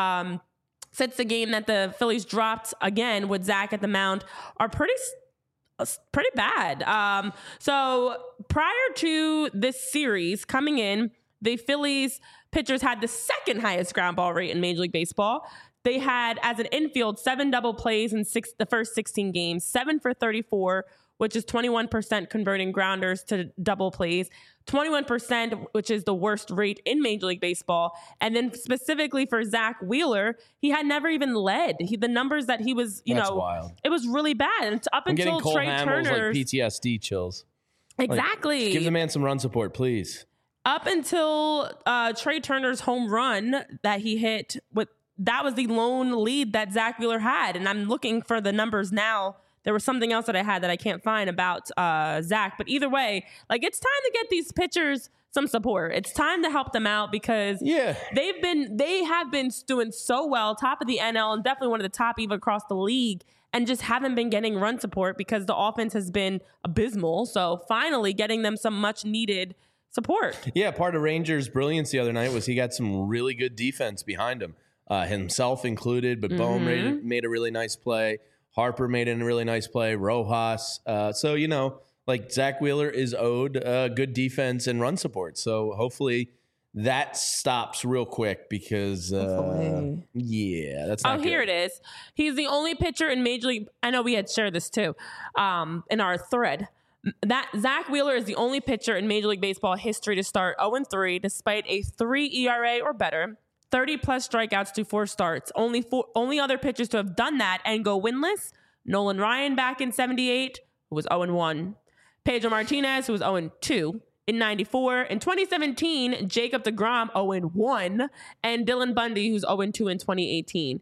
since the game that the Phillies dropped again with Zach at the mound, are pretty bad. So prior to this series coming in, the Phillies pitchers had the second highest ground ball rate in Major League Baseball. They had, as an infield, 7 double plays in the first 16 games, 7 for 34, which is 21% converting grounders to double plays, 21%, which is the worst rate in Major League Baseball. And then specifically for Zach Wheeler, he had never even led. The numbers that he was, That's wild. It was really bad. And up until Trey Turner, PTSD chills. Exactly. Give the man some run support, please. Up until Trey Turner's home run that he hit, that was the lone lead that Zach Wheeler had. And I'm looking for the numbers now. There was something else that I had that I can't find about Zach. But either way, it's time to get these pitchers some support. It's time to help them out because they have been doing so well, top of the NL and definitely one of the top even across the league, and just haven't been getting run support because the offense has been abysmal. So finally getting them some much needed support. Yeah, part of Rangers' brilliance the other night was he got some really good defense behind him, himself included, but Bohm made a really nice play. Harper made a really nice play. Rojas. So, Zach Wheeler is owed good defense and run support. So hopefully that stops real quick because, that's not good. Here it is. He's the only pitcher in Major League. I know we had shared this too in our thread. That Zach Wheeler is the only pitcher in Major League Baseball history to start 0-3 despite a 3 ERA or better. 30-plus strikeouts to 4 starts. Only other pitchers to have done that and go winless. Nolan Ryan back in 78, who was 0-1. Pedro Martinez, who was 0-2 in 94. In 2017, Jacob deGrom, 0-1. And Dylan Bundy, who's 0-2 in 2018.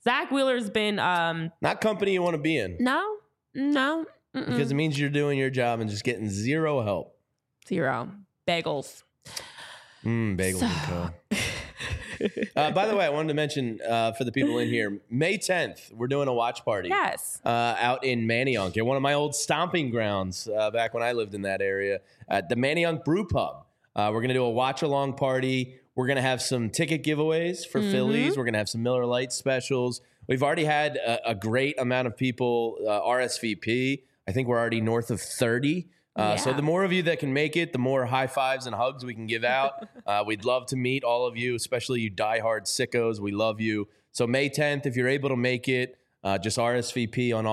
Zach Wheeler's been not company you want to be in. No. Because it means you're doing your job and just getting zero help. Zero. Bagels. Bagels and co. By the way, I wanted to mention for the people in here, May 10th, we're doing a watch party. Yes. Out in Manayunk, one of my old stomping grounds back when I lived in that area, at the Manayunk Brew Pub. We're going to do a watch-along party. We're going to have some ticket giveaways for Phillies. We're going to have some Miller Lite specials. We've already had a great amount of people RSVP. I think we're already north of 30. So the more of you that can make it, the more high fives and hugs we can give out. We'd love to meet all of you, especially you diehard sickos. We love you. So May 10th, if you're able to make it, just RSVP on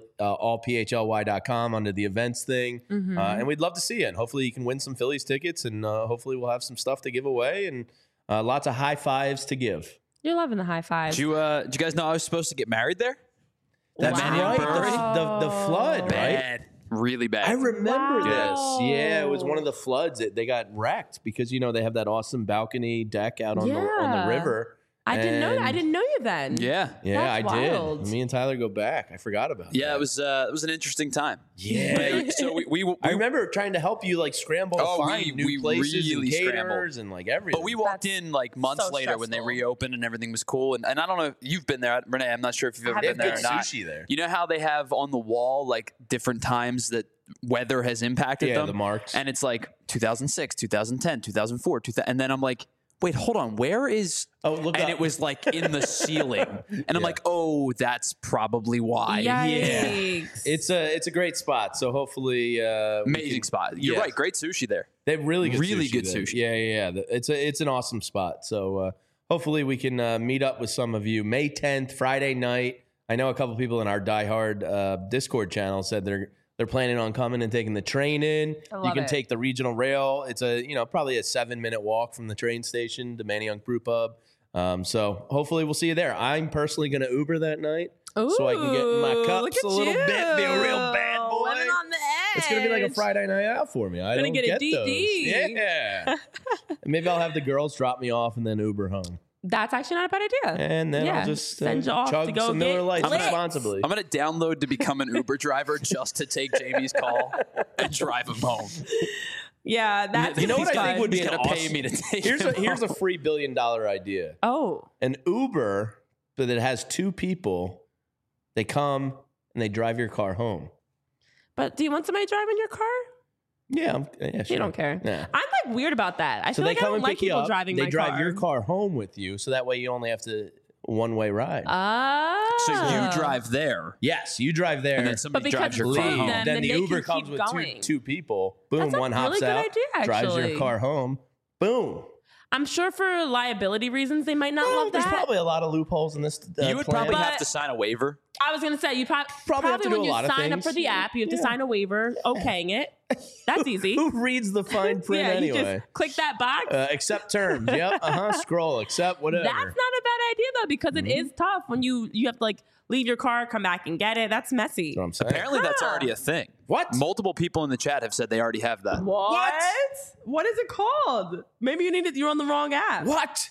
allphlY.com under the events thing. And we'd love to see you. And hopefully you can win some Phillies tickets, and hopefully we'll have some stuff to give away and lots of high fives to give. You're loving the high fives. Did you guys know I was supposed to get married there? That's right. The flood, bad. right? Really bad. I remember this. Yeah, it was one of the floods. They got wrecked because, they have that awesome balcony deck out on the river. I didn't know that. I didn't know you then. Yeah. Yeah, That's wild. did. Me and Tyler go back. I forgot about that. Yeah, it was an interesting time. Yeah. So we I remember trying to help you scramble to find new places really and caterers and everything. But we walked in months later when they reopened and everything was cool. And I don't know if you've been there, Renee. I'm not sure if you've ever been there or not. Sushi there. You know how they have on the wall different times that weather has impacted them? Yeah, the marks. And it's 2006, 2010, 2004, and then I'm like, wait, hold on. Where is? Oh, look and up. it was in the ceiling, and I'm like, oh, that's probably why. Yikes. Yeah, it's a great spot. So hopefully, amazing spot. You're right. Great sushi there. They have really good sushi. Yeah. It's an awesome spot. So hopefully we can meet up with some of you May 10th, Friday night. I know a couple people in our diehard Discord channel said they're planning on coming and taking the train in. You can take the regional rail. It's probably a 7-minute walk from the train station to Manayunk Brew Pub. So hopefully we'll see you there. I'm personally going to Uber that night. So I can get in my cups a little bit, be a real bad boy. Living on the edge. It's going to be like a Friday night out for me. I don't get a those. DD. Yeah. And maybe I'll have the girls drop me off and then Uber home. That's actually not a bad idea. And then I'll just send you off chug to go some get Miller Lite lit. responsibly. I'm going to download to become an Uber driver just to take Jamie's call and drive him home. Yeah, that's You know what I think would be He's an gonna awesome... pay me to take Here's him a home. $3 billion idea. Oh. An Uber that has 2 people. They come and they drive your car home. But do you want somebody driving your car? Yeah, sure. You don't care. Nah. I'm weird about that. I So feel they like I come don't and like pick you people up. driving They my drive car. your car home with you, so that way you only have to one-way ride. So you drive there. Yes, you drive there. And then somebody because drives your it's car free, home. then Then the they Uber can comes keep with going. two people. Boom, That's a one hops really good out, idea, drives your actually. car home. Boom. I'm sure for liability reasons they might not Well, love there's that. probably a lot of loopholes in this. You would plan. probably have But- to sign a waiver. I was gonna say you Probably have to do when a you lot of sign up things. for the app, you have to sign a waiver, okaying it. That's easy. Who reads the fine print yeah, anyway? you just click that box. Accept terms. Yep. Scroll. Accept whatever. That's not a bad idea though, because it is tough when you have to leave your car, come back and get it. That's messy. That's what I'm saying. Apparently, that's already a thing. What? Multiple people in the chat have said they already have that. What? What is it called? Maybe you're on the wrong app. What?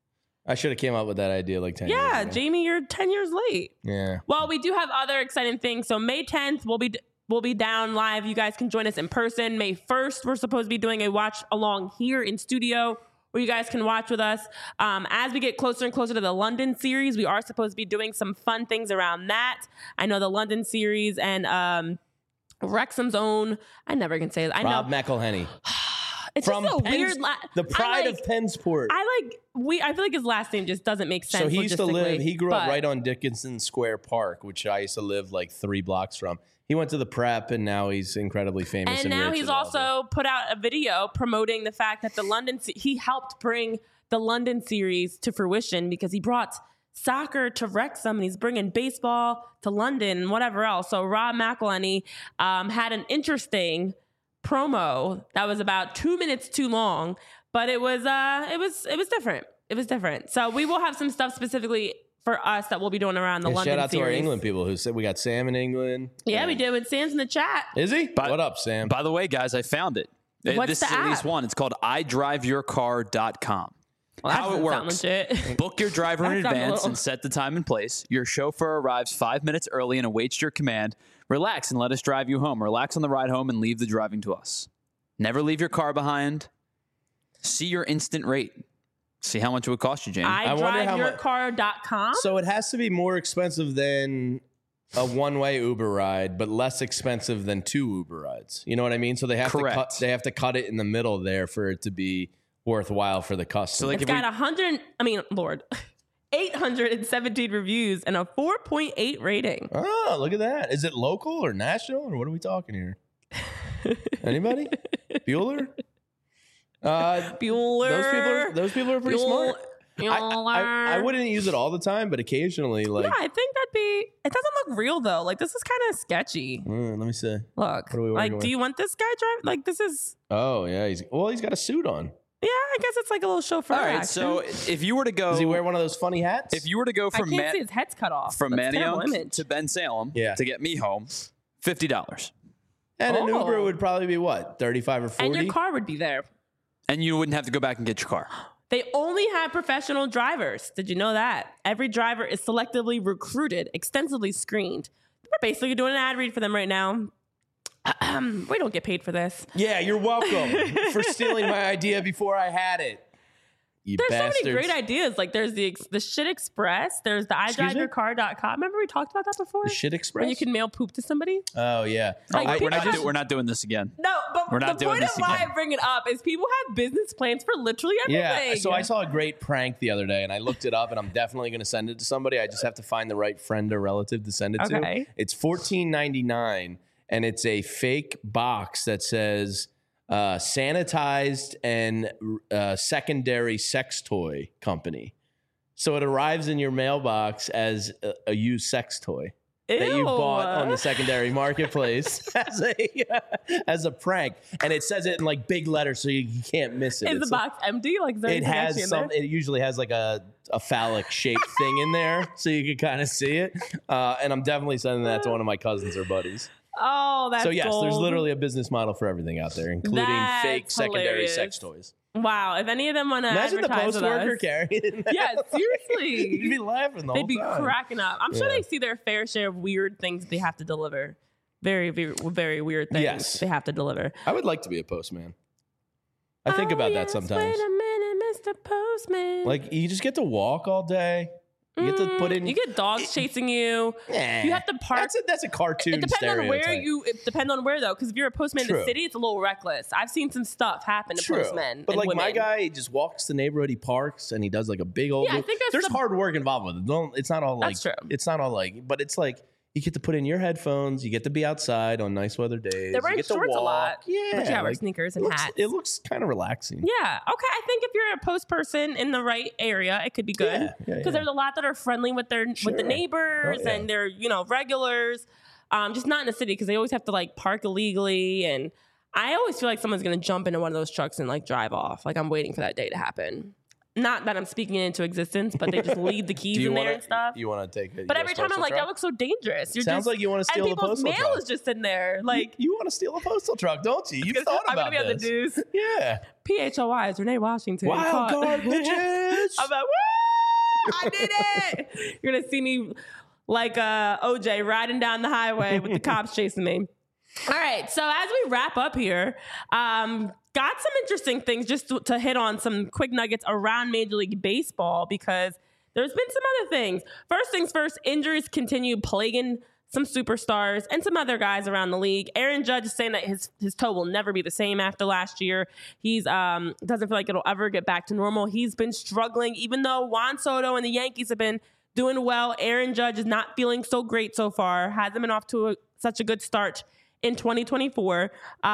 I should have came up with that idea 10 years Yeah, ago. Jamie, you're 10 years late. Yeah. Well, we do have other exciting things. So May 10th, we'll be down live. You guys can join us in person. May 1st, we're supposed to be doing a watch along here in studio where you guys can watch with us. As we get closer and closer to the London series, we are supposed to be doing some fun things around that. I know the London series and Wrexham's own. I never can say it. I Rob know. McElhenney. It's From just a Penn's- weird. the pride of Pennsport. I feel like his last name just doesn't make sense. So he used to live, he grew up but- right on Dickinson Square Park, which I used to live 3 blocks from. He went to the prep and now he's incredibly famous. And now rich he's and all that. also put out a video promoting the fact that he helped bring the London series to fruition because he brought soccer to Wrexham and he's bringing baseball to London and whatever else. So Rob McElhenney had an interesting promo that was about 2 minutes too long, but it was different. It was different. So we will have some stuff specifically for us that we'll be doing around the London shout out series. to our England people who said we got Sam in England. Yeah, we did with Sam's in the chat. Is he? What up, Sam? By the way, guys, I found it. What's This the is at least app? one. It's called idriveyourcar.com. Well, How it works. legit. Book your driver in That sounds a advance little- and set the time and place. Your chauffeur arrives 5 minutes early and awaits your command. Relax and let us drive you home. Relax on the ride home and leave the driving to us. Never leave your car behind. See your instant rate. See how much it would cost you, Jane. I wonder how iDriveYourCar.com. So it has to be more expensive than a one-way Uber ride, but less expensive than 2 Uber rides. You know what I mean? So they have Correct. to cut it in the middle there for it to be worthwhile for the customer. So like It's got 817 reviews and a 4.8 rating. Oh, look at that. Is it local or national or what are we talking here? Anybody? Bueller? Bueller. Those people are pretty smart. I wouldn't use it all the time, but occasionally, like. Yeah, I think it doesn't look real though. Like this is kind of sketchy. Let me see. Look, What are we like, working do with? you want this guy drive? Like this is, Oh yeah, he's got a suit on. yeah, I guess it's like a little chauffeur. All right, action. so if you were to go, Does he wear one of those funny hats? if you were to go I from can't see his head's cut off. from That's a terrible Manioc image. to Ben Salem Yeah. to get me home, $50, and an Oh. Uber would probably be what, 35 or 40? And your car would be there. and you wouldn't have to go back and get your car. They only have professional drivers. Did you know that? Every driver is selectively recruited, extensively screened. We're basically doing an ad read for them right now. We don't get paid for this. Yeah, you're welcome for stealing my idea before I had it. You There's bastards. so many great ideas. Like there's the Shit Express. There's the Excuse me? iDriveYourCar.com. Remember we talked about that before? The Shit Express? When you can mail poop to somebody? Oh, yeah. Like, we're people not doing this again. No, but We're not the doing point of this why again. I bring it up is people have business plans for literally everything. Yeah, so I saw a great prank the other day, and I looked it up, and I'm definitely going to send it to somebody. I just have to find the right friend or relative to send it Okay. to. It's $14.99, and it's a fake box that says sanitized and secondary sex toy company. So it arrives in your mailbox as a used sex toy that you bought on the secondary marketplace as a prank, and it says it in like big letters so you can't miss it. Is the It's box empty? Like is there it anything actually has in some. there? It usually has like a phallic shaped thing in there, so you can kind of see it. And I'm definitely sending that to one of my cousins or buddies. Oh, that's So yes, gold. there's literally a business model for everything out there, including That's fake secondary hilarious. sex toys. Wow. If any of them want to Imagine the advertise post with worker us, carrying. that. yeah, seriously. You'd be laughing the They'd whole be time. cracking up. I'm sure Yeah. they see their fair share of weird things they have to deliver. Very, very, very weird things Yes. they have to deliver. I would like to be a postman. I think about that yes, sometimes. Wait a minute, Mr. Postman. Like you just get to walk all day. You get to put in. You get dogs chasing you. Nah, You have to park. That's a cartoon. It depends on where stereotype. It depends on where though, because if you're a postman in the True. city, it's a little reckless. I've seen some stuff happen to True. postmen. But and like my women. guy, he just walks the neighborhood, he parks, and he does like a big old. Yeah, I think that's there's the- hard work involved with it. It's not all like. That's true. It's not all like, but it's like you get to put in your headphones. You get to be outside on nice weather days. They're wearing you get to shorts a walk. lot. Yeah, But you gotta wear like, sneakers and hats. It looks kind of relaxing. Yeah. Okay. I think if you're a post person in the right area, it could be good. Yeah, Because yeah. there's a lot that are friendly with with Sure. the neighbors Oh, yeah. and they're regulars. Just not in the city because they always have to like park illegally, and I always feel like someone's gonna jump into one of those trucks and like drive off. Like I'm waiting for that day to happen. Not that I'm speaking it into existence, but they just leave the keys in there and stuff. You want to take it? But every time I'm like, that looks so dangerous. You're Sounds just, like you want to steal and the people's postal mail truck. is just in there. Like you want to steal a postal truck, don't you? You've thought I'm about gonna be on the this. news. Yeah. PHOI is Renee Washington. Wild caught- card bitches. I'm like, woo! I did it. You're gonna see me like OJ riding down the highway with the cops chasing me. All right, so as we wrap up here, got some interesting things just to hit on some quick nuggets around Major League Baseball because there's been some other things. First things first, injuries continue plaguing some superstars and some other guys around the league. Aaron Judge is saying that his toe will never be the same after last year. He's doesn't feel like it'll ever get back to normal. He's been struggling, even though Juan Soto and the Yankees have been doing well. Aaron Judge is not feeling so great so far. Hasn't been off to such a good start in 2024.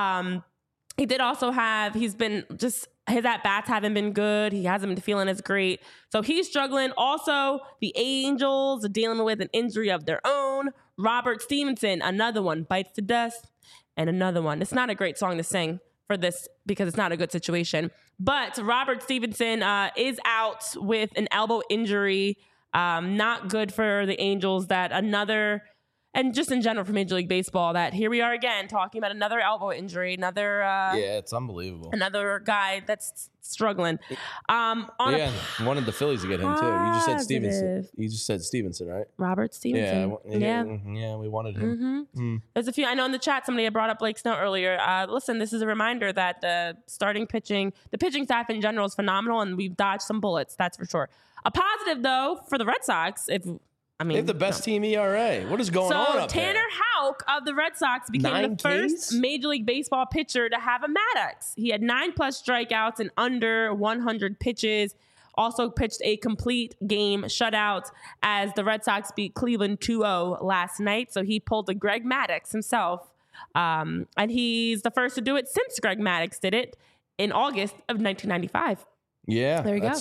He did also his at-bats haven't been good. He hasn't been feeling as great. So he's struggling. Also, the Angels are dealing with an injury of their own. Robert Stevenson, another one, bites the dust, and another one. It's not a great song to sing for this because it's not a good situation. But Robert Stevenson is out with an elbow injury. Not good for the Angels that another and just in general for Major League Baseball, that here we are again talking about another elbow injury, another it's unbelievable. another guy that's struggling. Wanted the Phillies to get him too. You just said Stevenson. Positive. You just said Stevenson, right? Robert Stevenson. Yeah, we wanted him. There's a few. I know in the chat somebody had brought up Blake Snell earlier. Listen, this is a reminder that the pitching staff in general is phenomenal, and we've dodged some bullets. That's for sure. A positive though for the Red Sox, they have the best team ERA. What is going on up Tanner there? Houck of the Red Sox became the first Major League Baseball pitcher to have a Maddox. He had 9+ strikeouts and under 100 pitches. Also pitched a complete game shutout as the Red Sox beat Cleveland 2-0 last night. So he pulled the Greg Maddux himself. And he's the first to do it since Greg Maddux did it in August of 1995. Yeah, there you go.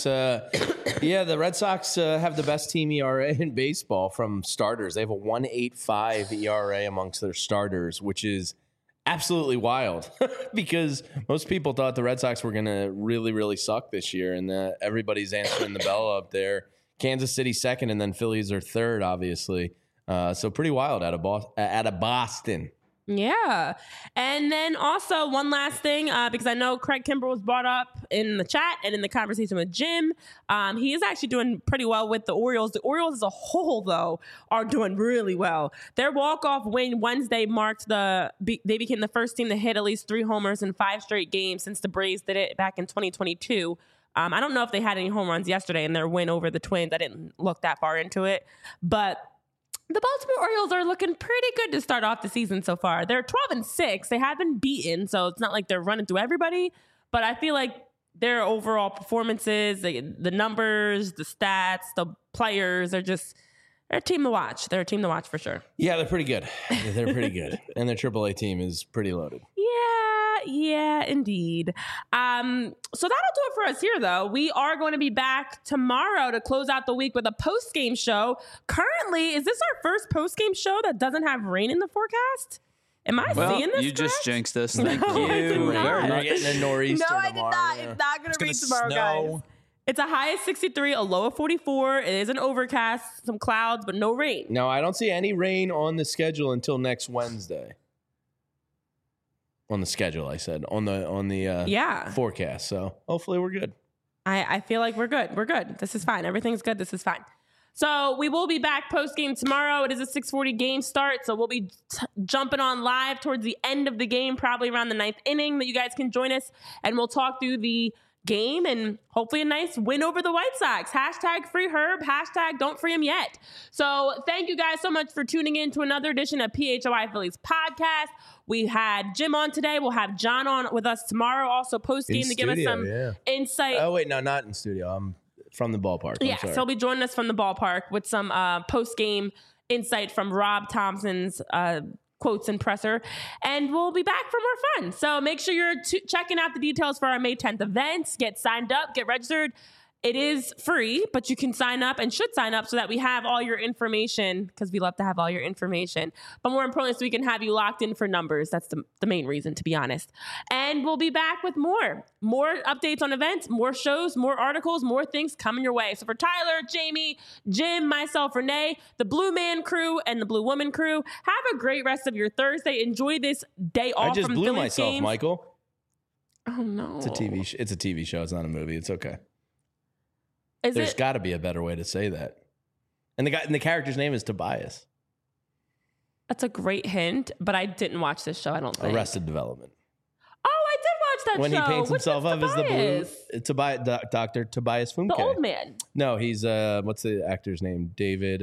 The Red Sox have the best team ERA in baseball from starters. They have a 1.85 ERA amongst their starters, which is absolutely wild because most people thought the Red Sox were going to really, really suck this year, and everybody's answering the bell up there. Kansas City second, and then Phillies are third, obviously. So pretty wild out of Boston. Yeah. And then also one last thing, because I know Craig Kimbrell was brought up in the chat and in the conversation with Jim. He is actually doing pretty well with the Orioles. The Orioles as a whole, though, are doing really well. Their walk-off win Wednesday marked they became the first team to hit at least 3 homers in 5 straight games since the Braves did it back in 2022. I don't know if they had any home runs yesterday in their win over the Twins. I didn't look that far into it. But the Baltimore Orioles are looking pretty good to start off the season so far. They're 12-6. They have been beaten, so it's not like they're running through everybody. But I feel like their overall performances, the numbers, the stats, the players, they're a team to watch. They're a team to watch for sure. Yeah, they're pretty good. They're pretty good. And their AAA team is pretty loaded. Yeah, indeed. So that'll do it for us here, though. We are going to be back tomorrow to close out the week with a post-game show. Currently, is this our first post-game show that doesn't have rain in the forecast? Am I seeing this you correct? Just jinxed this. Thank I did you. not. We're getting a nor'easter No, I did tomorrow. not. Yeah. It's not going to rain tomorrow, snow. guys. It's a high of 63, a low of 44. It is an overcast, some clouds, but no rain. No, I don't see any rain on the schedule until next Wednesday. On the schedule, I said. On the forecast. So hopefully we're good. I feel like we're good. We're good. This is fine. Everything's good. This is fine. So we will be back post-game tomorrow. It is a 6:40 game start, so we'll be jumping on live towards the end of the game, probably around the 9th inning, that you guys can join us, and we'll talk through the game and hopefully a nice win over the White Sox. Hashtag free Herb. Hashtag don't free him yet. So thank you guys so much for tuning in to another edition of PHOI Phillies podcast. We had Jim on today. We'll have John on with us tomorrow, also post-game to give us some insight. Oh, wait, no, not in studio. I'm from the ballpark. Yeah, so he'll be joining us from the ballpark with some post-game insight from Rob Thompson's quotes and presser, and we'll be back for more fun. So make sure you're checking out the details for our May 10th events. Get signed up, get registered. It is free, but you can sign up and should sign up so that we have all your information, because we love to have all your information. But more importantly, so we can have you locked in for numbers. That's the main reason, to be honest. And we'll be back with more updates on events, more shows, more articles, more things coming your way. So for Tyler, Jamie, Jim, myself, Renee, the Blue Man crew, and the Blue Woman crew, have a great rest of your Thursday. Enjoy this day off from Phillies games. I just blew myself, Michael. Oh, no. It's a TV show. It's not a movie. It's okay. There's got to be a better way to say that. And the character's name is Tobias. That's a great hint, but I didn't watch this show, I don't think. Arrested Development. Oh, I did watch that when show. When he paints himself up as the blue, Dr. Tobias Funke. The old man. No, he's, what's the actor's name? David,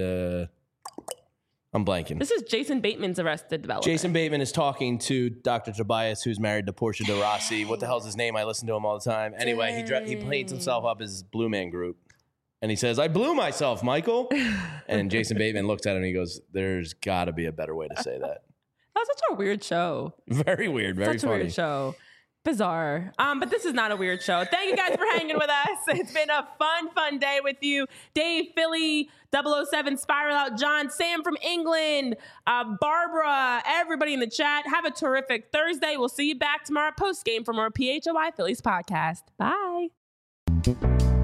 I'm blanking. This is Jason Bateman's Arrested Development. Jason Bateman is talking to Dr. Tobias, who's married to Portia de Rossi. What the hell's his name? I listen to him all the time. Anyway, he paints himself up as Blue Man Group. And he says, I blew myself, Michael. And Jason Bateman looks at him and he goes, there's got to be a better way to say that. That was such a weird show. Very weird. Very such funny. A weird show. Bizarre. But this is not a weird show. Thank you guys for hanging with us. It's been a fun day with you. Dave, Philly, 007, Spiral Out, John, Sam from England, Barbara, everybody in the chat. Have a terrific Thursday. We'll see you back tomorrow post-game for more PHOI Phillies podcast. Bye.